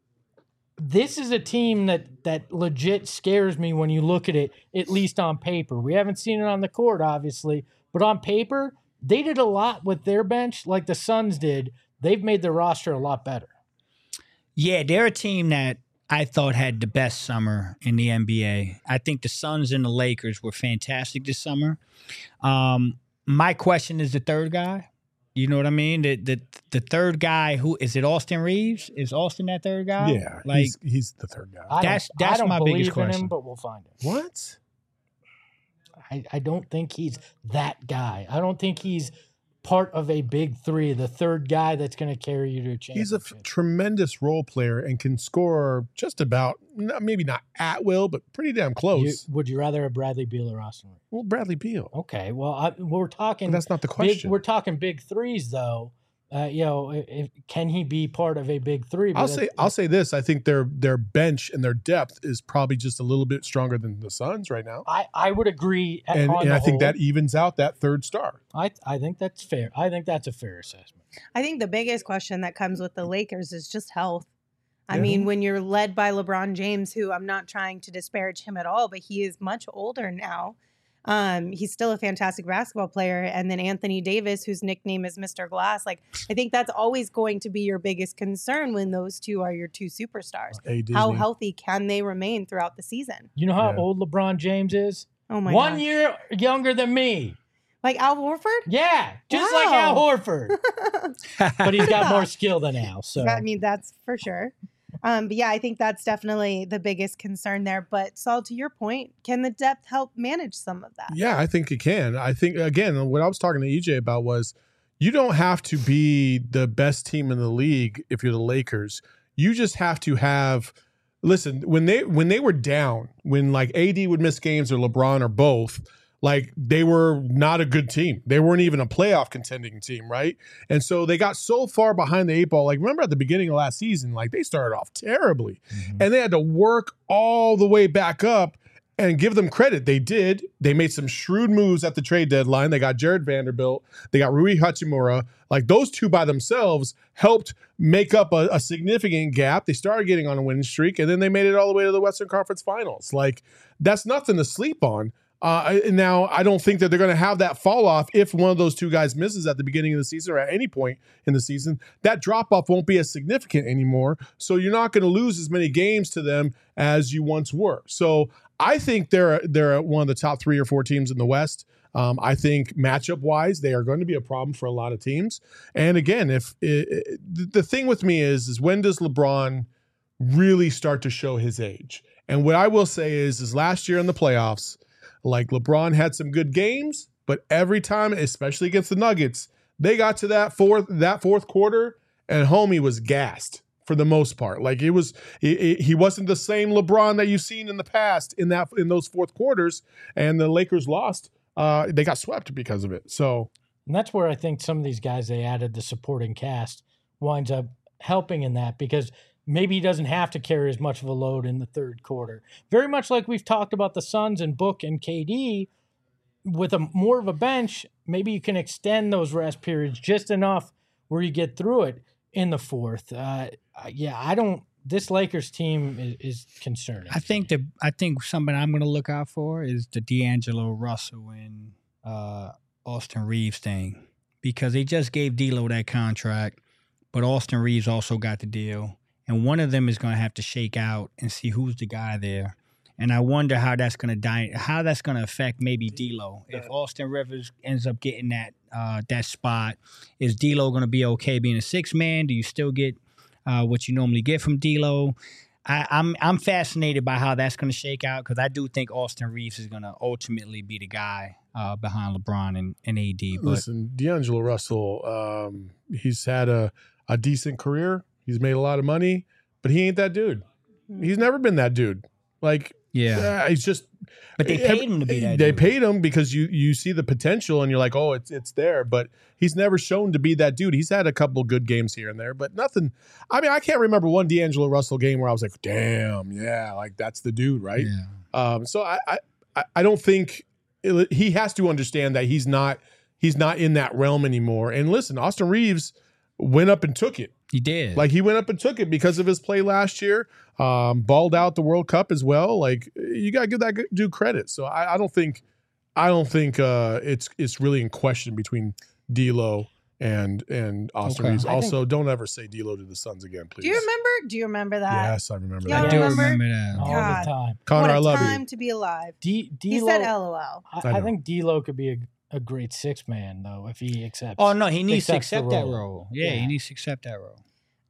this is a team that that legit scares me when you look at it, at least on paper. We haven't seen it on the court, obviously, but on paper, they did a lot with their bench like the Suns did. They've made their roster a lot better. Yeah, they're a team that I thought had the best summer in the N B A. I think the Suns and the Lakers were fantastic this summer. Um, my question is the third guy. You know what I mean? The the the third guy, who is it? Austin Reeves? Is Austin that third guy? Yeah, like he's, he's the third guy. I That's- don't, I that's don't my believe biggest in question. him, but we'll find it. What? I, I don't think he's that guy. I don't think he's part of a big three, the third guy that's going to carry you to a championship. He's a f- tremendous role player and can score just about, n- maybe not at will, but pretty damn You- close. would you rather have Bradley Beal or Austin Reeves? Well, Bradley Beal. Okay, well, I, we're talking. But that's not the big, question. we're talking big threes, though. Uh, you know, if, can he be part of a big three? But I'll say that's- I'll say this. I think their their bench and their depth is probably just a little bit stronger than the Suns right now. I, I would agree. at- And, on and the I think whole. that evens out that third star. I I think that's fair. I think that's a fair assessment. I think the biggest question that comes with the Lakers is just health. I Yeah. mean, when you're led by LeBron James, who I'm not trying to disparage him at all, but he is much older now. Um, he's still a fantastic basketball player. And then Anthony Davis, whose nickname is Mister Glass. Like, I think that's always going to be your biggest concern when those two are your two superstars. Hey, How Disney. healthy can they remain throughout the season? You know how Yeah. old LeBron James is? Oh my One God. year younger than me. Like Al Horford? Yeah, just like Al Wow. Horford. But he's got more skill than Al. So I mean, that's for sure. Um, but yeah, I think that's definitely the biggest concern there. But Saul, to your point, can the depth help manage some of that? Yeah, I think it can. I think, again, what I was talking to E J about was you don't have to be the best team in the league if you're the Lakers. You just have to have listen, when they when they were down, when like A D would miss games or LeBron or both, like they were not a good team. They weren't even a playoff contending team, right? And so they got so far behind the eight ball. Like remember at the beginning of last season, like they started off terribly. Mhm. And they had to work all the way back up. And give them credit. They did. They made some shrewd moves at the trade deadline. They got Jared Vanderbilt. They got Rui Hachimura. Like those two by themselves helped make up a, a significant gap. They started getting on a winning streak, and then they made it all the way to the Western Conference Finals. Like that's nothing to sleep on. Uh, now, I don't think that they're going to have that fall off if one of those two guys misses at the beginning of the season or at any point in the season. That drop off won't be as significant anymore. So you're not going to lose as many games to them as you once were. So I think they're they're one of the top three or four teams in the West. Um, I think matchup wise, they are going to be a problem for a lot of teams. And again, if it, it, the thing with me is, is when does LeBron really start to show his age? And what I will say is, is last year in the playoffs, like LeBron had some good games, but every time, especially against the Nuggets, they got to that fourth that fourth quarter, and homie was gassed for the most part. Like it was, he, he wasn't the same LeBron that you've seen in the past in that in those fourth quarters, and the Lakers lost. Uh, they got swept because of it. So, and that's where I think some of these guys they added the supporting cast winds up helping in that because maybe he doesn't have to carry as much of a load in the third quarter. Very much like we've talked about the Suns and Book and K D, with a more of a bench, maybe you can extend those rest periods just enough where you get through it in the fourth. Uh, yeah, I don't. This Lakers team is, is concerning. I think the I think something I'm going to look out for is the D'Angelo Russell and uh, Austin Reeves thing, because they just gave D'Lo that contract, but Austin Reeves also got the deal. And one of them is going to have to shake out and see who's the guy there. And I wonder how that's going to die, how that's going to affect maybe D'Lo. If Austin Rivers ends up getting that uh, that spot, is D'Lo going to be okay being a six man? Do you still get uh, what you normally get from D'Lo? I, I'm I'm fascinated by how that's going to shake out because I do think Austin Reeves is going to ultimately be the guy uh, behind LeBron and, and A D. But listen, D'Angelo Russell, um, he's had a, a decent career. He's made a lot of money, but he ain't that dude. He's never been that dude. Like, yeah, uh, he's just. But they paid him to be that They dude. paid him because you you see the potential and you're like, oh, it's it's there. But he's never shown to be that dude. He's had a couple good games here and there, but nothing. I mean, I can't remember one D'Angelo Russell game where I was like, damn, yeah, like that's the dude, right? Yeah. Um, so I I I don't think it, he has to understand that he's not he's not in that realm anymore. And listen, Austin Reeves went up and took it. He did. Like he went up and took it because of his play last year. Um, balled out the World Cup as well. Like you gotta give that dude credit. So I, I don't think, I don't think uh, it's it's really in question between D'Lo and and Austin Okay. Reeves. I Also, don't ever say D'Lo to the Suns again, please. Do you remember? Do you remember that? Yes, I remember Y'all that. I do remember? remember that. all God. the time. Connor, what a I love time you. to be alive. D, He D-Lo, said L O L. I, I I know. think D'Lo could be a, a great six man though if he accepts. Oh no, he needs to accepts the accept that role. role. Yeah, Yeah. he needs to accept that role.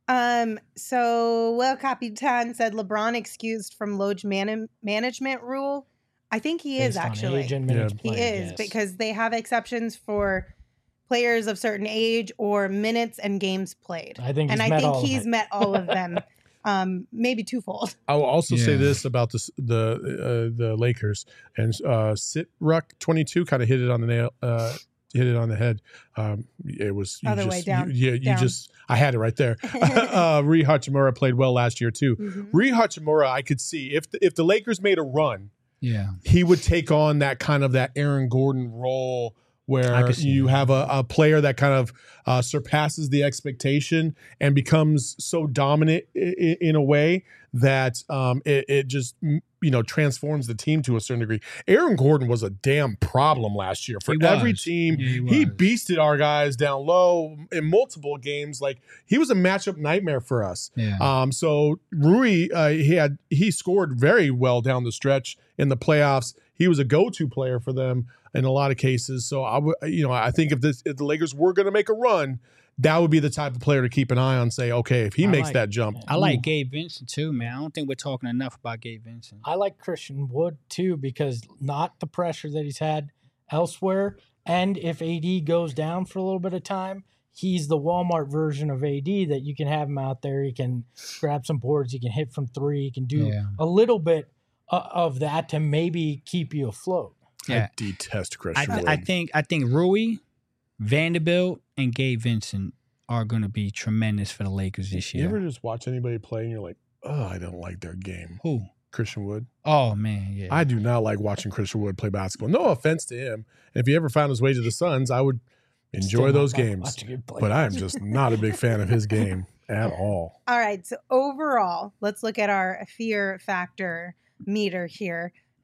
Um. So, well, Capitan said LeBron excused from load man- management rule. I think he is Based on actually. age and minutes He played, is yes. because they have exceptions for players of certain age or minutes and games played. I think and he's I met think all of he's it. met all of them. Um, maybe twofold. I will also say Yeah. this about this, the uh, the Lakers and uh, Sit Ruck twenty-two kind of hit it on the nail, uh, hit it on the head. Um, it was you Other just, way down. You, yeah, you Down. just I had it right there. uh, Rui Hachimura played well last year too. Mhm. Rui Hachimura, I could see if the, if the Lakers made a run, Yeah. he would take on that kind of that Aaron Gordon role I where could see you that. have a, a player that kind of uh, surpasses the expectation and becomes so dominant in, in a way that um, it, it just mm, you know transforms the team to a certain degree. Aaron Gordon was a damn problem last year for He every was. team. Yeah, he he was. beasted our guys down low in multiple games. Like he was a matchup nightmare for us. Yeah. Um, so Rui, uh, he had he scored very well down the stretch in the playoffs. He was a go-to player for them in a lot of cases. So I would, you know, I think if this if the Lakers were going to make a run, that would be the type of player to keep an eye on. Say, okay, if he I makes like- that jump, I like ooh. Gabe Vincent too, man. I don't think we're talking enough about Gabe Vincent. I like Christian Wood too because not the pressure that he's had elsewhere, and if A D goes down for a little bit of time, he's the Walmart version of A D that you can have him out there. He can grab some boards, he can hit from three, he can do Yeah. a little bit uh, of that to maybe keep you afloat. Yeah. I detest I, Christian th- Wood. I think I think Rui, Vanderbilt, and Gabe Vincent are going to be tremendous for the Lakers this you year. ever just watch anybody play and you're like, oh, I don't like their game. Who? Christian Wood. Oh man, yeah. I do not like watching Christian Wood play basketball. No offense to him. And if he ever found his way to the Suns, I would enjoy Still those not games. watching him play. But I am just not a big fan of his game at all. All right. So overall, let's look at our fear factor meter here.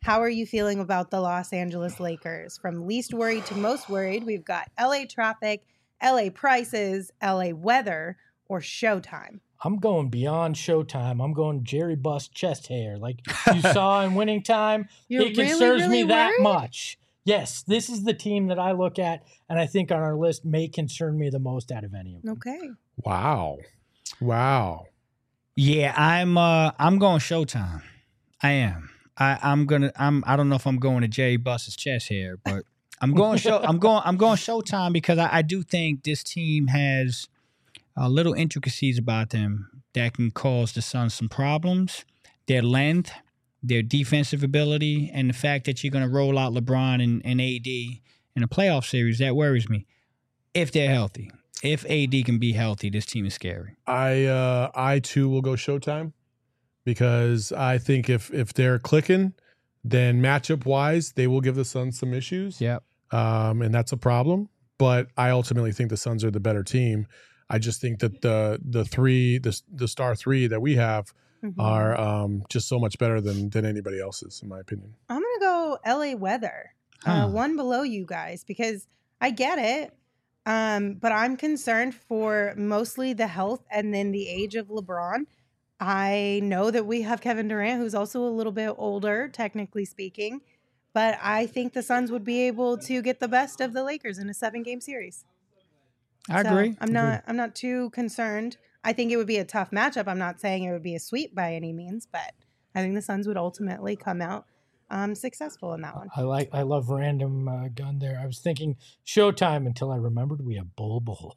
How are you feeling about the Los Angeles Lakers? From least worried to most worried, we've got L A traffic, L A prices, L A weather, or Showtime. I'm going beyond Showtime. I'm going Jerry Buss chest hair. Like you saw in Winning Time, You're it concerns really, really me that worried? much. Yes, this is the team that I look at, and I think on our list may concern me the most out of any of them. Okay. Wow. Wow. Yeah, I'm uh I'm going Showtime. I am. I, I'm gonna I'm I don't know if I'm going to Jerry Buss's chest hair, but I'm going show I'm going I'm going Showtime because I, I do think this team has uh, little intricacies about them that can cause the Suns some problems. Their length, their defensive ability, and the fact that you're gonna roll out LeBron and, and A D in a playoff series, that worries me. If they're healthy. If A D can be healthy, this team is scary. I uh, I too will go Showtime because I think if if they're clicking, then matchup wise they will give the Suns some issues. Yep. Um, and that's a problem. But I ultimately think the Suns are the better team. I just think that the the three the the star three that we have Mhm. are um, just so much better than than anybody else's, in my opinion. I'm going to go L A weather, Huh. uh, one below you guys, because I get it. Um, but I'm concerned for mostly the health and then the age of LeBron. I know that we have Kevin Durant, who's also a little bit older, technically speaking, but I think the Suns would be able to get the best of the Lakers in a seven-game series. I So agree. I'm not. I'm not too concerned. I think it would be a tough matchup. I'm not saying it would be a sweep by any means, but I think the Suns would ultimately come out um, successful in that one. I like I love random uh, gun there. I was thinking Showtime until I remembered we have Bull Bull.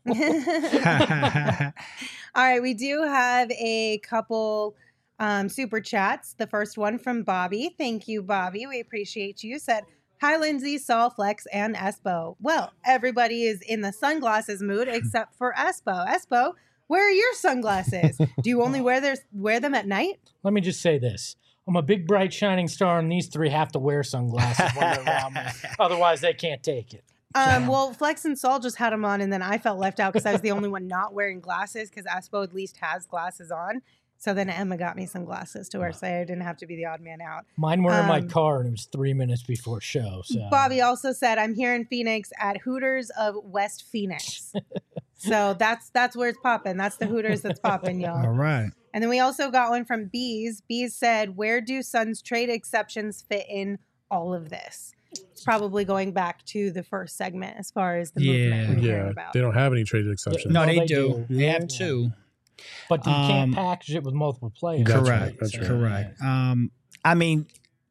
All right, we do have a couple um, super chats. The first one from Bobby. Thank you, Bobby. We appreciate you. Said, hi, Lindsay, Saul, Flex, and Espo. Well, everybody is in the sunglasses mood except for Espo. Espo, where are your sunglasses? Do you only wear their, wear them at night? Let me just say this. I'm a big, bright, shining star, and these three have to wear sunglasses when they're around me. Otherwise, they can't take it. Um, well, Flex and Saul just had them on, and then I felt left out because I was the only one not wearing glasses because Espo at least has glasses on. So then Emma got me some glasses to wear, so I didn't have to be the odd man out. Mine were in my Um, car, and it was three minutes before show. So Bobby also said, I'm here in Phoenix at Hooters of West Phoenix. So that's that's where it's popping. That's the Hooters that's popping, All y'all. right. And then we also got one from Bees. Bees said, where do Suns trade exceptions fit in all of this? It's probably going back to the first segment as far as the movement we're hearing Yeah, about. they don't have any traded exceptions. No, No, they, they do. do. They have Yeah. two. but you Um, can't package it with multiple players. That's Correct. right, that's So, right. Correct. Um, I mean,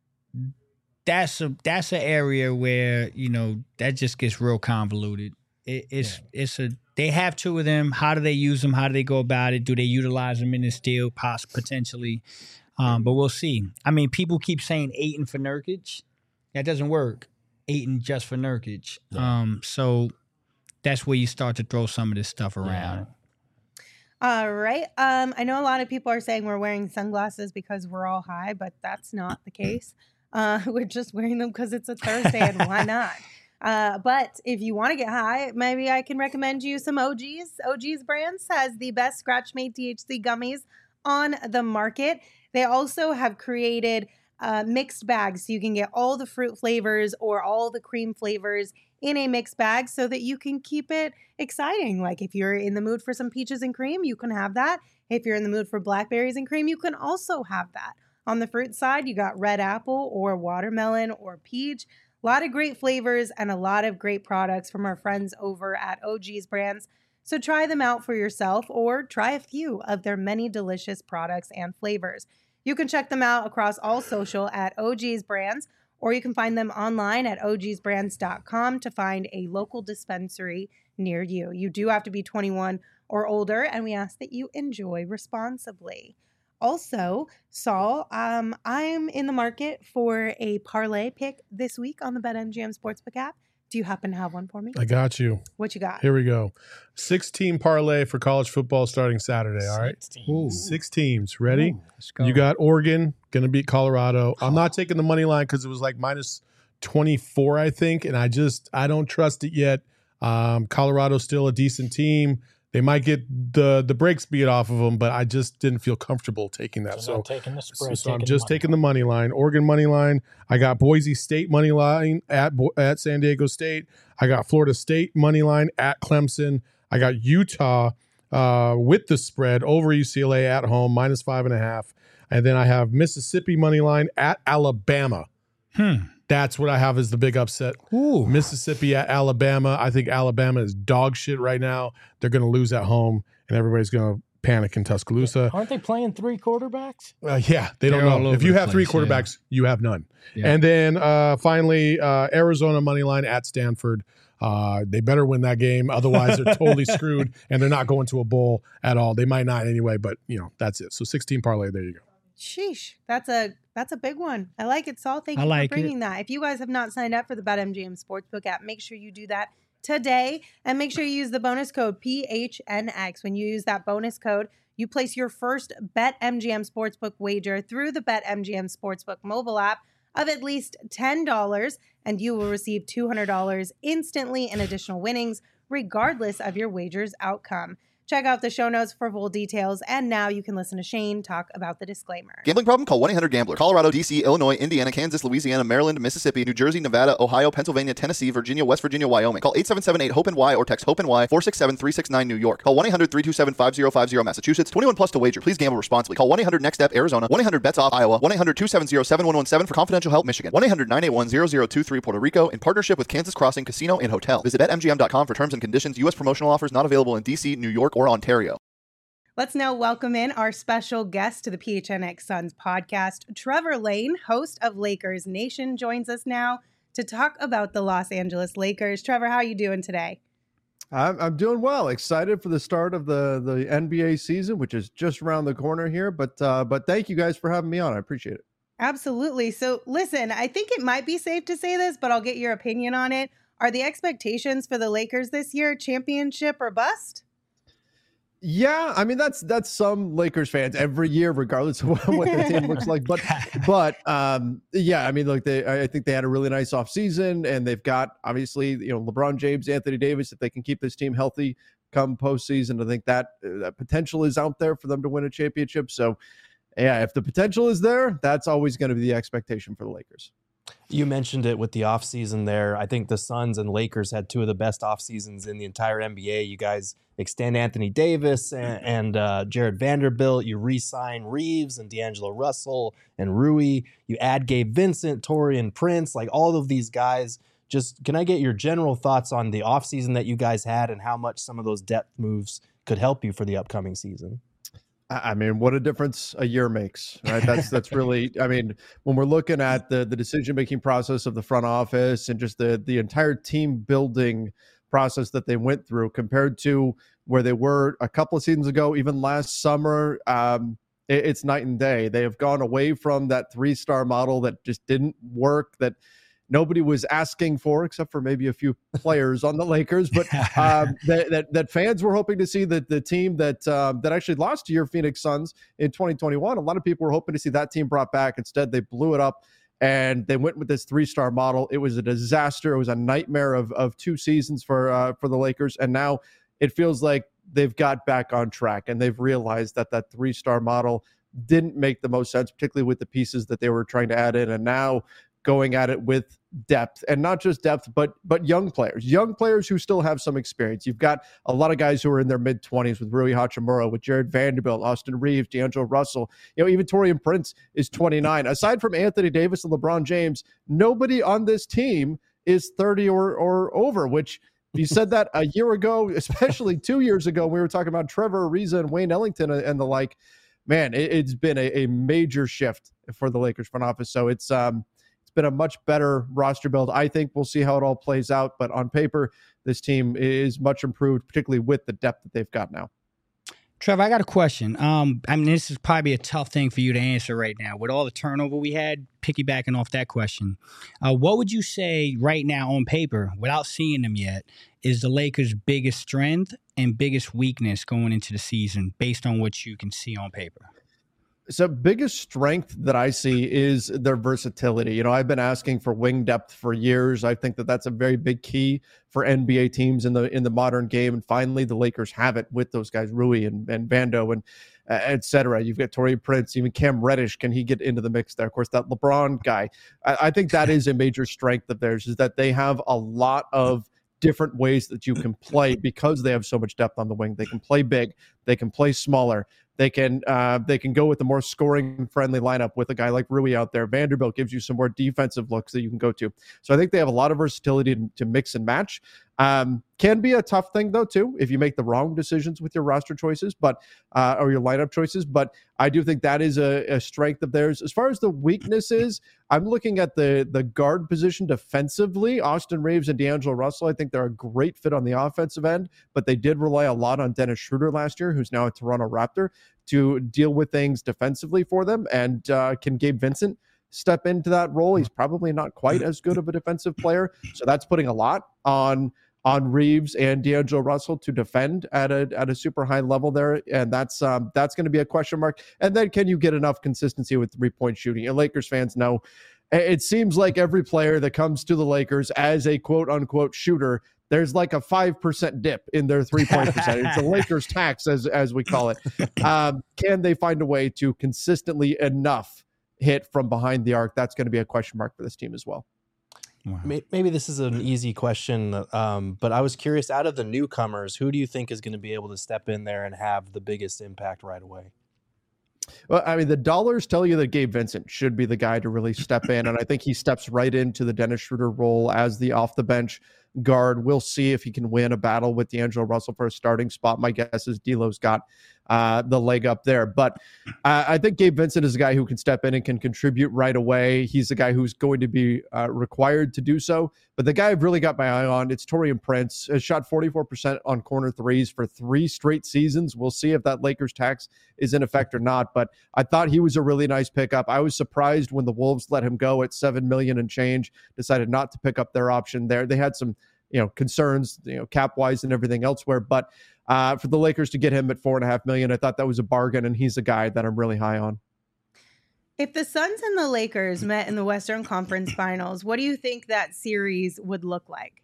that's a that's an area where you know that just gets real convoluted. It, it's it's a they have two of them. How do they use them? How do they go about it? Do they utilize them in this deal? Poss- potentially, um, but we'll see. I mean, people keep saying Ayton for Nurkic. That doesn't work. Ayton just for Nurkic. Yeah. Um, so that's where you start to throw some of this stuff around. All right. Um, I know a lot of people are saying we're wearing sunglasses because we're all high, but that's not the case. Uh, we're just wearing them because it's a Thursday and why not? Uh, but if you want to get high, maybe I can recommend you some O Gs. O Gs Brands has the best scratch-made T H C gummies on the market. They also have created uh, mixed bags so you can get all the fruit flavors or all the cream flavors in a mixed bag so that you can keep it exciting. Like if you're in the mood for some peaches and cream, you can have that. If you're in the mood for blackberries and cream, you can also have that. On the fruit side, you got red apple or watermelon or peach. A lot of great flavors and a lot of great products from our friends over at O G's Brands. So try them out for yourself or try a few of their many delicious products and flavors. You can check them out across all social at O G's Brands, or you can find them online at o gs brands dot com to find a local dispensary near you. You do have to be twenty-one or older, and we ask that you enjoy responsibly. Also, Saul, um, I'm in the market for a parlay pick this week on the BetMGM Sportsbook app. Do you happen to have one for me? I got you. What you got? Here we go. Six team parlay for college football starting Saturday. All right. Ooh, Six teams. Ready? Ooh, let's go. You got Oregon going to beat Colorado. I'm not taking the money line because it was like minus twenty-four, I think. And I just, I don't trust it yet. Um, Colorado's still a decent team. They might get the the brakes beat off of them, but I just didn't feel comfortable taking that. So, So, not taking the spread. so I'm taking just the money taking the money line. Oregon money line. I got Boise State money line at Bo- at San Diego State. I got Florida State money line at Clemson. I got Utah uh, with the spread over U C L A at home minus five and a half, and then I have Mississippi money line at Alabama. Hmm. That's what I have as the big upset. Ooh. Mississippi at Alabama. I think Alabama is dog shit right now. They're going to lose at home, and everybody's going to panic in Tuscaloosa. Aren't they playing three quarterbacks? Uh, yeah, they They're don't all know. over If you the have three place, quarterbacks, you have none. Yeah. And then uh, finally, uh, Arizona money line at Stanford. Uh, they better win that game. Otherwise, they're totally screwed, and they're not going to a bowl at all. They might not anyway, but, you know, that's it. So sixteen parlay, there you go. Sheesh, that's a that's a big one. I like it, Saul. Thank I you like for bringing that. If you guys have not signed up for the BetMGM Sportsbook app, make sure you do that today, and make sure you use the bonus code P H N X. When you use that bonus code, you place your first BetMGM Sportsbook wager through the BetMGM Sportsbook mobile app of at least ten dollars, and you will receive two hundred dollars instantly in additional winnings, regardless of your wager's outcome. Check out the show notes for full details, and now you can listen to Shane talk about the disclaimer. Gambling problem? Call one eight hundred gambler. Colorado, D C, Illinois, Indiana, Kansas, Louisiana, Maryland, Mississippi, New Jersey, Nevada, Ohio, Pennsylvania, Tennessee, Virginia, West Virginia, Wyoming. Call eight seven seven eight hope N Y or text hope N Y four six seven three six nine New York. Call one eight hundred three two seven five zero five zero Massachusetts. twenty-one plus to wager. Please gamble responsibly. Call one eight hundred next step Arizona. one eight hundred bets off Iowa. one eight hundred two seven zero seven one one seven for confidential help Michigan. one eight hundred nine eight one zero zero two three Puerto Rico in partnership with Kansas Crossing Casino and Hotel. Visit bet M G M dot com for terms and conditions. U S promotional offers not available in D C, New York, or Ontario. Let's now welcome in our special guest to the P H N X Suns podcast. Trevor Lane, host of Lakers Nation, joins us now to talk about the Los Angeles Lakers. Trevor, how are you doing today? I'm, I'm doing well. Excited for the start of the, the N B A season, which is just around the corner here. But uh, but thank you guys for having me on. I appreciate it. Absolutely. So listen, I think it might be safe to say this, but I'll get your opinion on it. Are the expectations for the Lakers this year championship or bust? Yeah, I mean that's that's some Lakers fans every year, regardless of what, what their team looks like. But but um, yeah, I mean, look, they I think they had a really nice offseason, and they've got obviously you know LeBron James, Anthony Davis. If they can keep this team healthy come postseason, I think that uh, that potential is out there for them to win a championship. So yeah, if the potential is there, that's always going to be the expectation for the Lakers. You mentioned it with the offseason there. I think the Suns and Lakers had two of the best off seasons in the entire N B A. You guys extend Anthony Davis and, and uh, Jared Vanderbilt. You re-sign Reeves and D'Angelo Russell and Rui. You add Gabe Vincent, Taurean Prince, like all of these guys. Just can I get your general thoughts on the offseason that you guys had and how much some of those depth moves could help you for the upcoming season? I mean, what a difference a year makes, right? That's that's really, I mean, when we're looking at the the decision-making process of the front office and just the the entire team building process that they went through compared to where they were a couple of seasons ago, even last summer, um, it, it's night and day. They have gone away from that three-star model that just didn't work, that nobody was asking for, except for maybe a few players on the Lakers. But um, that, that that fans were hoping to see that the team that um, that actually lost to your Phoenix Suns in twenty twenty-one. A lot of people were hoping to see that team brought back. Instead, they blew it up, and they went with this three-star model. It was a disaster. It was a nightmare of of two seasons for uh, for the Lakers, and now it feels like they've got back on track, and they've realized that that three-star model didn't make the most sense, particularly with the pieces that they were trying to add in, and now going at it with depth, and not just depth, but but young players, young players who still have some experience. You've got a lot of guys who are in their mid twenties with Rui Hachimura, with Jared Vanderbilt, Austin Reeves, D'Angelo Russell. You know, even Taurean Prince is twenty-nine. Aside from Anthony Davis and LeBron James, nobody on this team is thirty or or over, which you said that a year ago, especially two years ago, we were talking about Trevor Ariza and Wayne Ellington and the like. Man, it, it's been a, a major shift for the Lakers front office. So it's um been a much better roster build. I think we'll see how it all plays out, but on paper, this team is much improved, particularly with the depth that they've got now. Trevor, I got a question. Um, I mean, this is probably a tough thing for you to answer right now. With all the turnover we had, piggybacking off that question, uh, what would you say right now on paper, without seeing them yet, is the Lakers' biggest strength and biggest weakness going into the season based on what you can see on paper? So biggest strength that I see is their versatility. You know, I've been asking for wing depth for years. I think that that's a very big key for N B A teams in the in the modern game. And finally, the Lakers have it with those guys, Rui and, and Vando and uh, et cetera. You've got Torrey Prince, even Cam Reddish. Can he get into the mix there? Of course, that LeBron guy. I, I think that is a major strength of theirs, is that they have a lot of different ways that you can play because they have so much depth on the wing. They can play big. They can play smaller. They can uh, they can go with a more scoring-friendly lineup with a guy like Rui out there. Vanderbilt gives you some more defensive looks that you can go to. So I think they have a lot of versatility to, to mix and match. Um, can be a tough thing, though, too, if you make the wrong decisions with your roster choices but uh, or your lineup choices. But I do think that is a, a strength of theirs. As far as the weaknesses, I'm looking at the, the guard position defensively. Austin Reeves and D'Angelo Russell, I think they're a great fit on the offensive end, but they did rely a lot on Dennis Schroeder last year, who's now a Toronto Raptor, to deal with things defensively for them. And uh, can Gabe Vincent step into that role? He's probably not quite as good of a defensive player. So that's putting a lot on on Reeves and D'Angelo Russell to defend at a at a super high level there. And that's um, that's going to be a question mark. And then can you get enough consistency with three-point shooting? And Lakers fans know it seems like every player that comes to the Lakers as a quote-unquote shooter, there's like a five percent dip in their three-point percentage. It's a Lakers tax, as as we call it. Um, can they find a way to consistently enough hit from behind the arc? That's going to be a question mark for this team as well. Wow. Maybe this is an easy question, um, but I was curious, out of the newcomers, who do you think is going to be able to step in there and have the biggest impact right away? Well, I mean, the dollars tell you that Gabe Vincent should be the guy to really step in, and I think he steps right into the Dennis Schroeder role as the off-the-bench guard. We'll see if he can win a battle with D'Angelo Russell for a starting spot. My guess is D'Lo's got uh, the leg up there. But uh, I think Gabe Vincent is a guy who can step in and can contribute right away. He's the guy who's going to be uh, required to do so. But the guy I've really got my eye on, it's Taurean Prince. Has shot forty-four percent on corner threes for three straight seasons. We'll see if that Lakers tax is in effect or not. But I thought he was a really nice pickup. I was surprised when the Wolves let him go at seven million dollars and change, decided not to pick up their option there. They had some you know, concerns, you know, cap wise and everything elsewhere. But uh, for the Lakers to get him at four and a half million, I thought that was a bargain, and he's a guy that I'm really high on. If the Suns and the Lakers met in the Western Conference Finals, what do you think that series would look like?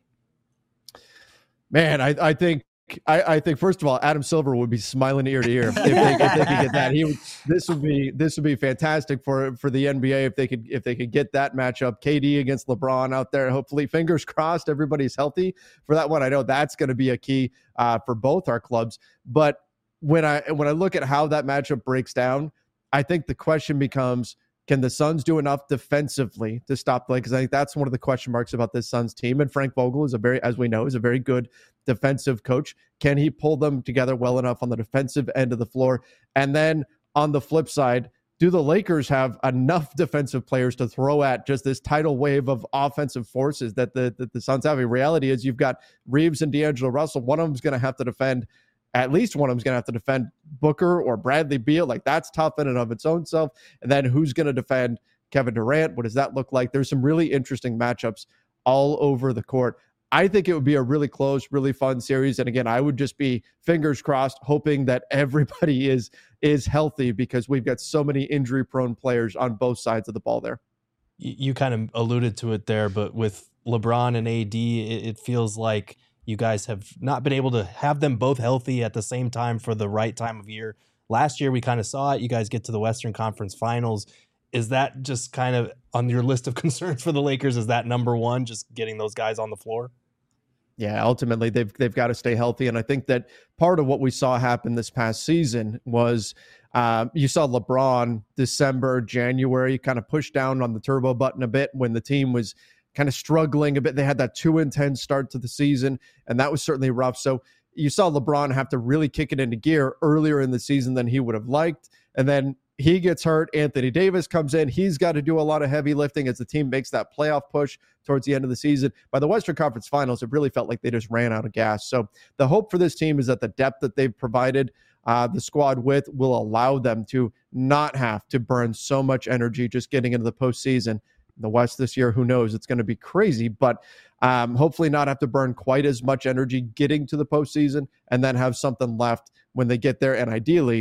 Man, I, I think I, I think first of all, Adam Silver would be smiling ear to ear if they, if they could get that. He would, this would be this would be fantastic for for the N B A if they could if they could get that matchup. K D against LeBron out there. Hopefully, fingers crossed, everybody's healthy for that one. I know that's going to be a key uh, for both our clubs. But when I when I look at how that matchup breaks down, I think the question becomes, can the Suns do enough defensively to stop the Lakers? I think that's one of the question marks about this Suns team. And Frank Vogel is a very, as we know, is a very good defensive coach. Can he pull them together well enough on the defensive end of the floor? And then on the flip side, do the Lakers have enough defensive players to throw at just this tidal wave of offensive forces that the, that the Suns have? In reality is you've got Reeves and D'Angelo Russell. One of them is going to have to defend At least one of them is going to have to defend Booker or Bradley Beal. Like, that's tough in and of its own self. And then who's going to defend Kevin Durant? What does that look like? There's some really interesting matchups all over the court. I think it would be a really close, really fun series. And again, I would just be fingers crossed, hoping that everybody is is healthy, because we've got so many injury-prone players on both sides of the ball there. You, you kind of alluded to it there, but with LeBron and A D, it, it feels like you guys have not been able to have them both healthy at the same time for the right time of year. Last year, we kind of saw it. You guys get to the Western Conference Finals. Is that just kind of on your list of concerns for the Lakers? Is that number one, just getting those guys on the floor? Yeah, ultimately, they've they've got to stay healthy. And I think that part of what we saw happen this past season was uh, you saw LeBron December, January kind of push down on the turbo button a bit when the team was kind of struggling a bit. They had that two and ten start to the season, and that was certainly rough. So you saw LeBron have to really kick it into gear earlier in the season than he would have liked. And then he gets hurt. Anthony Davis comes in. He's got to do a lot of heavy lifting as the team makes that playoff push towards the end of the season. By the Western Conference Finals, it really felt like they just ran out of gas. So the hope for this team is that the depth that they've provided uh, the squad with will allow them to not have to burn so much energy just getting into the postseason. The West this year, who knows? It's going to be crazy, but um, hopefully not have to burn quite as much energy getting to the postseason, and then have something left when they get there. And ideally,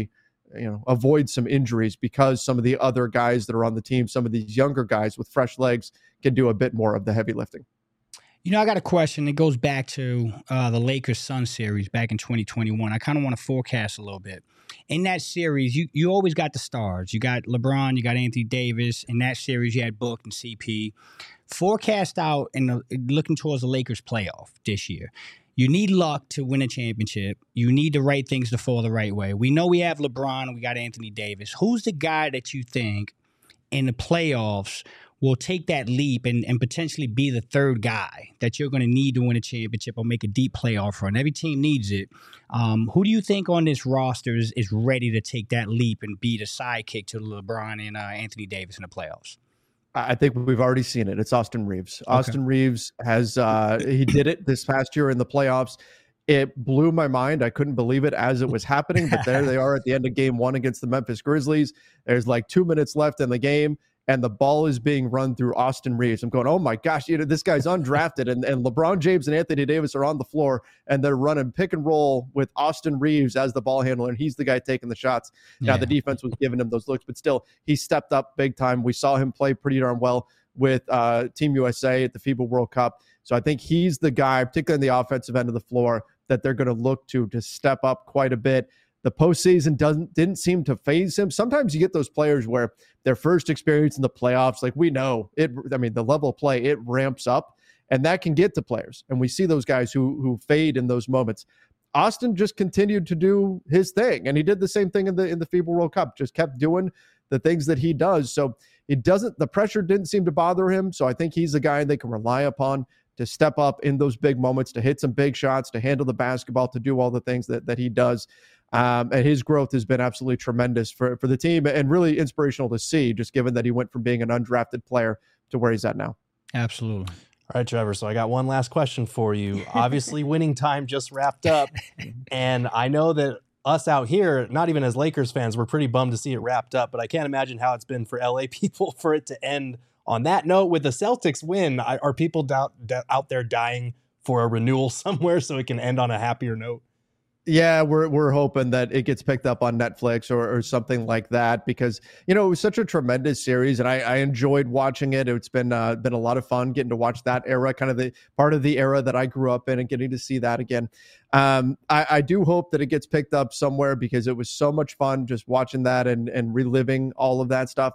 you know, avoid some injuries because some of the other guys that are on the team, some of these younger guys with fresh legs can do a bit more of the heavy lifting. You know, I got a question. It goes back to uh, the Lakers-Suns series back in twenty twenty-one. I kind of want to forecast a little bit. In that series, you, you always got the stars. You got LeBron, you got Anthony Davis. In that series, you had Book and C P. Forecast out and looking towards the Lakers playoff this year. You need luck to win a championship. You need the right things to fall the right way. We know we have LeBron and we got Anthony Davis. Who's the guy that you think in the playoffs will take that leap and, and potentially be the third guy that you're going to need to win a championship or make a deep playoff run? Every team needs it. Um, who do you think on this roster is, is ready to take that leap and be the sidekick to LeBron and uh, Anthony Davis in the playoffs? I think we've already seen it. It's Austin Reeves. Okay. Austin Reeves has, uh, he did it this past year in the playoffs. It blew my mind. I couldn't believe it as it was happening, but there they are at the end of game one against the Memphis Grizzlies. There's like two minutes left in the game, and the ball is being run through Austin Reeves. I'm going, oh my gosh, you know, this guy's undrafted, and, and LeBron James and Anthony Davis are on the floor, and they're running pick and roll with Austin Reeves as the ball handler, and he's the guy taking the shots. Yeah. Now, the defense was giving him those looks, but still, he stepped up big time. We saw him play pretty darn well with uh, Team U S A at the FIBA World Cup. So I think he's the guy, particularly in the offensive end of the floor, that they're going to look to to step up quite a bit. The postseason doesn't didn't seem to phase him. Sometimes you get those players where their first experience in the playoffs, like we know it. I mean, the level of play, it ramps up, and that can get to players. And we see those guys who who fade in those moments. Austin just continued to do his thing, and he did the same thing in the in the FIBA World Cup. Just kept doing the things that he does. So it doesn't. The pressure didn't seem to bother him. So I think he's a guy they can rely upon to step up in those big moments, to hit some big shots, to handle the basketball, to do all the things that that he does. Um, and his growth has been absolutely tremendous for, for the team and really inspirational to see, just given that he went from being an undrafted player to where he's at now. Absolutely. All right, Trevor. So I got one last question for you. Obviously, winning time just wrapped up. And I know that us out here, not even as Lakers fans, we're pretty bummed to see it wrapped up. But I can't imagine how it's been for L A people for it to end on that note. With the Celtics win, are people doubt, out there dying for a renewal somewhere so it can end on a happier note? Yeah, we're we're hoping that it gets picked up on Netflix or, or something like that, because, you know, it was such a tremendous series, and I, I enjoyed watching it. It's been uh, been a lot of fun getting to watch that era, kind of the part of the era that I grew up in, and getting to see that again. Um, I, I do hope that it gets picked up somewhere, because it was so much fun just watching that and and reliving all of that stuff.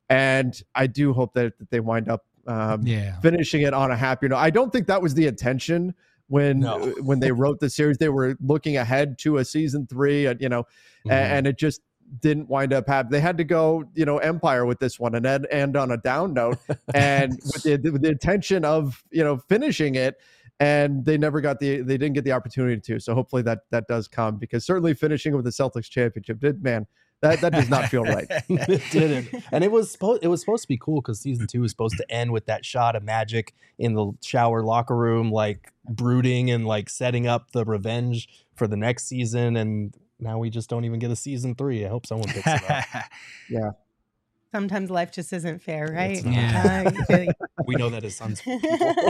And I do hope that, that they wind up um, yeah. finishing it on a happier note. I don't think that was the intention. When no. when they wrote the series, they were looking ahead to a season three, uh, you know, mm-hmm. and, and it just didn't wind up happening. They had to go, you know, Empire with this one and end, end on a down note, and with the, with the intention of, you know, finishing it, and they never got the they didn't get the opportunity to. So hopefully that that does come, because certainly finishing with the Celtics championship did, man. That that does not feel right. It didn't. And it was supposed it was supposed to be cool, because season two was supposed to end with that shot of Magic in the shower locker room, like brooding and like setting up the revenge for the next season. And now we just don't even get a season three. I hope someone picks it up. Yeah. Sometimes life just isn't fair, right? Yeah. Uh, we know that as Suns people.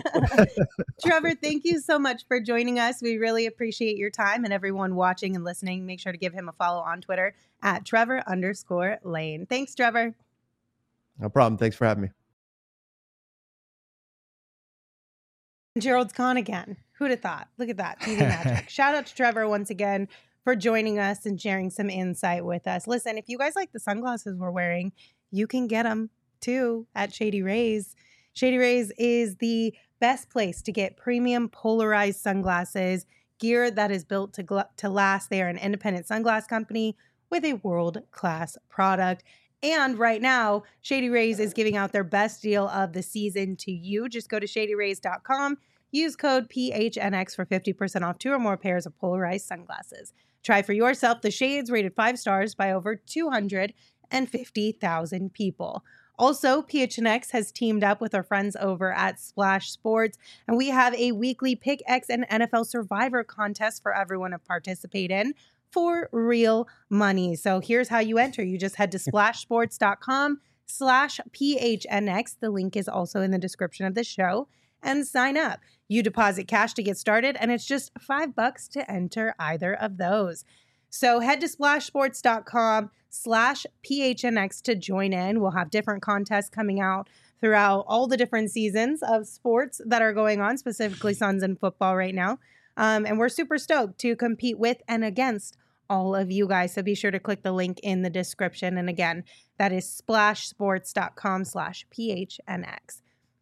Trevor, thank you so much for joining us. We really appreciate your time, and everyone watching and listening, make sure to give him a follow on Twitter at Trevor underscore Lane. Thanks, Trevor. No problem. Thanks for having me. Gerald's gone again. Who'd have thought? Look at that. T V magic. Shout out to Trevor once again for joining us and sharing some insight with us. Listen, if you guys like the sunglasses we're wearing, you can get them too at Shady Rays. Shady Rays is the best place to get premium polarized sunglasses, gear that is built to, gl- to last. They are an independent sunglass company with a world-class product. And right now, Shady Rays is giving out their best deal of the season to you. Just go to shady rays dot com. Use code P H N X for fifty percent off two or more pairs of polarized sunglasses. Try for yourself the shades rated five stars by over two hundred fifty thousand people. Also, P H N X has teamed up with our friends over at Splash Sports, and we have a weekly Pick X and N F L Survivor contest for everyone to participate in for real money. So here's how you enter. You just head to splash sports dot com slash P H N X. The link is also in the description of the show, and sign up. You deposit cash to get started, and it's just five bucks to enter either of those. So head to splashsports.com slash PHNX to join in. We'll have different contests coming out throughout all the different seasons of sports that are going on, specifically Suns and football right now. Um, and we're super stoked to compete with and against all of you guys. So be sure to click the link in the description. And again, that is splashsports.com slash PHNX.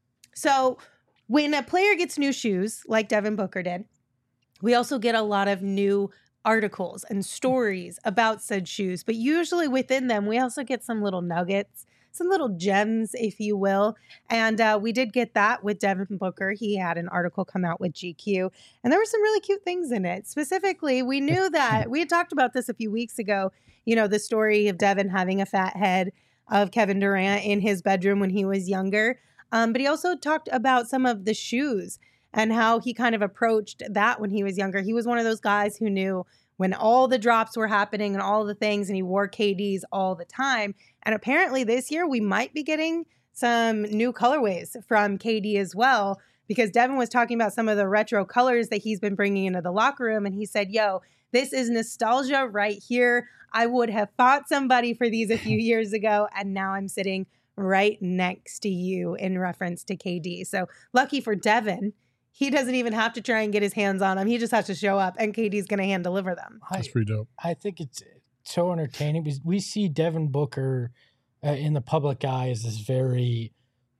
So when a player gets new shoes, like Devin Booker did, we also get a lot of new articles and stories about said shoes. But usually within them, we also get some little nuggets, some little gems, if you will. And uh, we did get that with Devin Booker. He had an article come out with G Q, and there were some really cute things in it. Specifically, we knew that we had talked about this a few weeks ago, you know, the story of Devin having a fat head of Kevin Durant in his bedroom when he was younger. Um, but he also talked about some of the shoes and how he kind of approached that when he was younger. He was one of those guys who knew when all the drops were happening and all the things, and he wore K Ds all the time. And apparently this year we might be getting some new colorways from K D as well, because Devin was talking about some of the retro colors that he's been bringing into the locker room. And he said, yo, this is nostalgia right here. I would have fought somebody for these a few years ago, and now I'm sitting right next to you, in reference to K D. So lucky for Devin, he doesn't even have to try and get his hands on them. He just has to show up, and K D's going to hand deliver them. That's pretty dope. I think it's so entertaining because we see Devin Booker uh, in the public eye as this very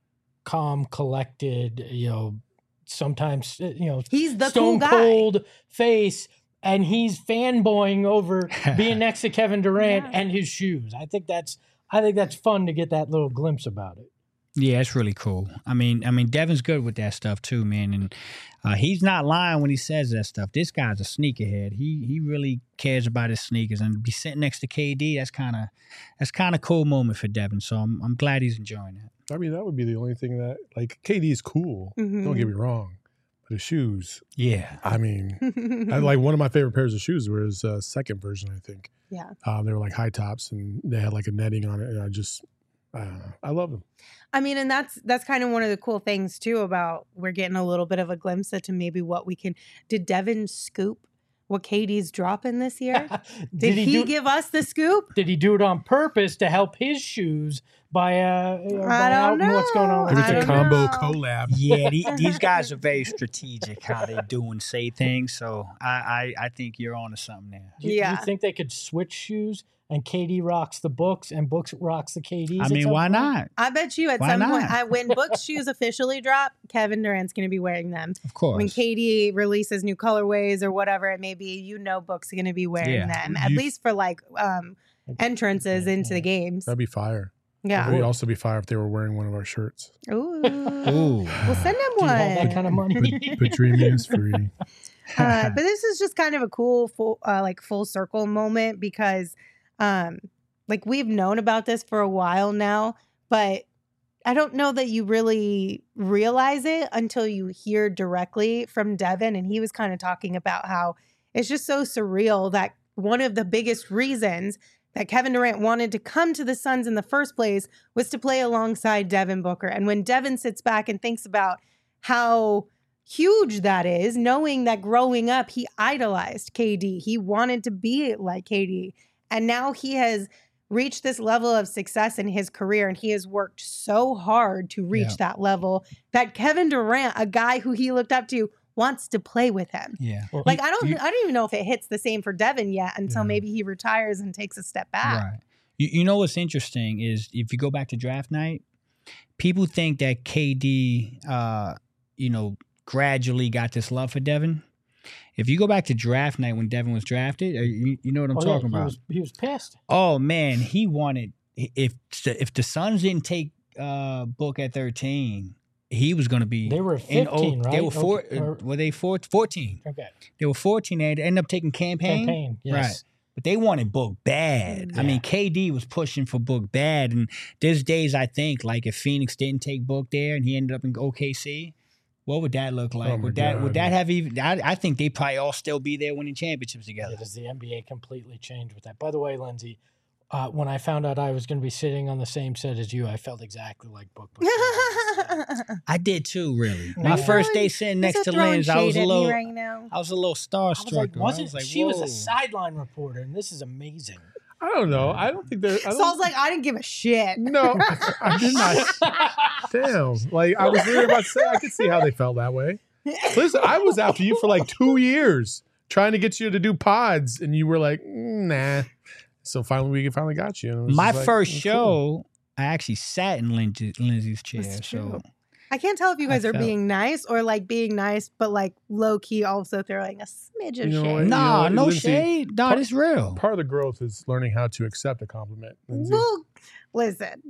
calm, collected, you know, sometimes, you know, He's the stone cool guy. cold face, and he's fanboying over being next to Kevin Durant Yeah. and his shoes. I think that's I think that's fun to get that little glimpse about it. Yeah, it's really cool. I mean, I mean, Devin's good with that stuff too, man, and uh, he's not lying when he says that stuff. This guy's a sneakerhead. He he really cares about his sneakers, and to be sitting next to K D, that's kind of that's kind of cool moment for Devin. So I'm I'm glad he's enjoying it. I mean, that would be the only thing that, like, K D is cool. Mhm. Don't get me wrong. But his shoes, Yeah, I mean, I, like one of my favorite pairs of shoes were his uh, second version, I think. Yeah. Um, they were like high tops, and they had like a netting on it, and I just, I don't know. I love them. I mean, and that's that's kind of one of the cool things too about we're getting a little bit of a glimpse into maybe what we can. Did Devin scoop what K D's dropping this year? Did, he, do, give us the scoop? Did he do it on purpose to help his shoes by uh you know, I by don't out what's going on know. with Maybe I it's a don't combo know. collab. yeah. The, these guys are very strategic how they do and say things. So I I, I think you're on to something there. Do you, do Yeah. you think they could switch shoes and K D rocks the books and Books rocks the K Ds? I at mean, some why point? not? I bet you at Why some point, not? I, when Book's shoes officially drop, Kevin Durant's going to be wearing them. Of course. When K D releases new colorways or whatever it may be, you know Book's going to be wearing Yeah. them, at You- least for like um, entrances into the games. That'd be fire. Yeah. It'd also be fire if they were wearing one of our shirts. Ooh. Ooh. We'll send him Do you one. have that kind of money? But dreaming is free. uh, but this is just kind of a cool full uh, like full circle moment because um like we've known about this for a while now, but I don't know that you really realize it until you hear directly from Devin. And he was kind of talking about how it's just so surreal that one of the biggest reasons that Kevin Durant wanted to come to the Suns in the first place was to play alongside Devin Booker. And when Devin sits back and thinks about how huge that is, knowing that growing up, he idolized K D. He wanted to be like K D. And now he has reached this level of success in his career, and he has worked so hard to reach Yeah. that level that Kevin Durant, a guy who he looked up to, wants to play with him. Yeah. Like, I don't you- I don't even know if it hits the same for Devin yet until Yeah. maybe he retires and takes a step back. Right. You, you know what's interesting is if you go back to draft night, people think that K D, uh, you know, gradually got this love for Devin. If you go back to draft night when Devin was drafted, uh, you, you know what I'm Oh, yeah, talking he about. was, he was pissed. Oh man, he wanted if if the Suns didn't take uh, Book at thirteen, he was going to be. They were in fifteen, O- They right? were four. Okay, or- were they four, fourteen? Okay. They were fourteen. They ended up taking campaign. Campaign. Yes. Right. But they wanted Book bad. I Yeah. mean, K D was pushing for Book bad. And there's days I think, like, if Phoenix didn't take Book there and he ended up in O K C, what would that look like? Oh my would that would God. that have even? I, I think they probably all still be there winning championships together. Yeah, does the N B A completely change with that? By the way, Lindsay, uh, when I found out I was going to be sitting on the same set as you, I felt exactly like Book. Book. I did too, really. My Really? first day sitting next to Linz, I was a little, right now. I was a little I was starstruck. like, I wasn't was like, she was whoa. a sideline reporter, and this is amazing. I don't know. I don't think there. I don't, Saul's like, I didn't give a shit. no, I, I did not. Damn. Like I was really about to say, I could see how they felt that way. Listen, I was after you for like two years trying to get you to do pods, and you were like, nah. So finally, we finally got you. And it was My just like, first oh, show, cool. I actually sat in Lindsay, Lindsay's chair. That's So true. I can't tell if you guys I are felt- being nice or like being nice, but like low key also throwing a smidge of You know what? shade. nah, You know, no Lindsay, shade. Nah, part- it's real. Part of the growth is learning how to accept a compliment. Lindsay. Well, listen.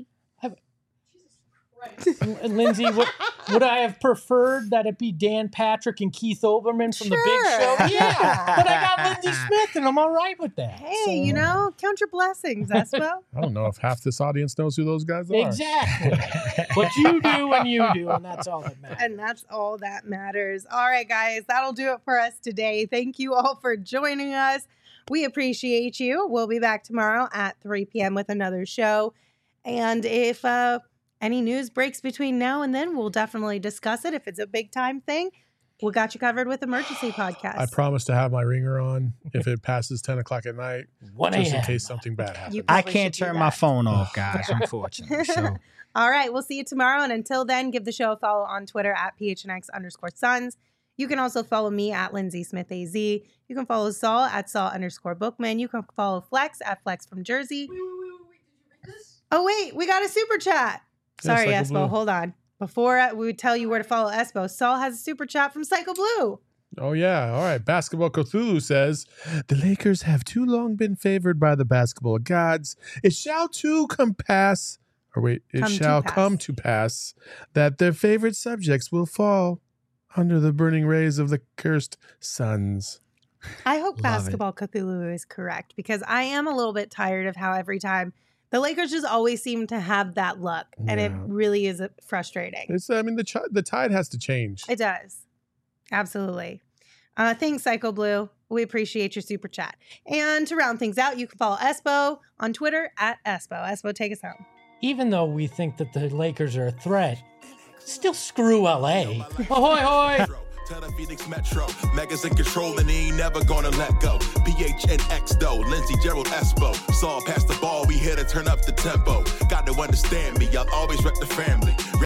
Lindsay, what, would I have preferred that it be Dan Patrick and Keith Olbermann from the Big Sure. Show? Yeah, but I got Lindsay Smith, and I'm all right with that. Hey, So- you know, count your blessings, Espo. I don't know if half this audience knows who those guys are. Exactly. But you do and you do, and that's all that matters. And that's all that matters. All right, guys, that'll do it for us today. Thank you all for joining us. We appreciate you. We'll be back tomorrow at three p.m. with another show. And if uh, any news breaks between now and then, we'll definitely discuss it. If it's a big time thing, we got you covered with Emergency Podcast. I promise to have my ringer on if it passes ten o'clock at night, one just in a.m. case something bad happens. You I probably can't should do turn my that. phone off, guys, unfortunately. So All right, we'll see you tomorrow. And until then, give the show a follow on Twitter at PHNX underscore Suns. You can also follow me at Lindsay Smith A Z. You can follow Saul at Saul underscore Bookman. You can follow Flex at Flex from Jersey. Oh, wait, we got a super chat. Yeah, Sorry, Psycho Espo. Blue. Hold on. Before uh, we tell you where to follow Espo, Saul has a super chat from Psycho Blue. Oh, yeah. All right. Basketball Cthulhu says the Lakers have too long been favored by the basketball gods. It shall too come pass, or wait, it Come to shall pass. come to pass that their favorite subjects will fall under the burning rays of the cursed suns. I hope Love it. Basketball Cthulhu is correct because I am a little bit tired of how every time the Lakers just always seem to have that luck, and it Yeah. really is uh, frustrating. It's, I mean, the ch- the tide has to change. It does. Absolutely. Uh, thanks, Psycho Blue. We appreciate your super chat. And to round things out, you can follow Espo on Twitter at Espo. Espo, take us home. Even though we think that the Lakers are a threat, still screw L A. Ahoy, hoy! Tell the Phoenix Metro, Megas in control and he ain't never gonna let go. P H N X though, Lindsey, Gerald, Espo. Saw pass the ball, we here to turn up the tempo. Got to understand me, I'll always rep the family.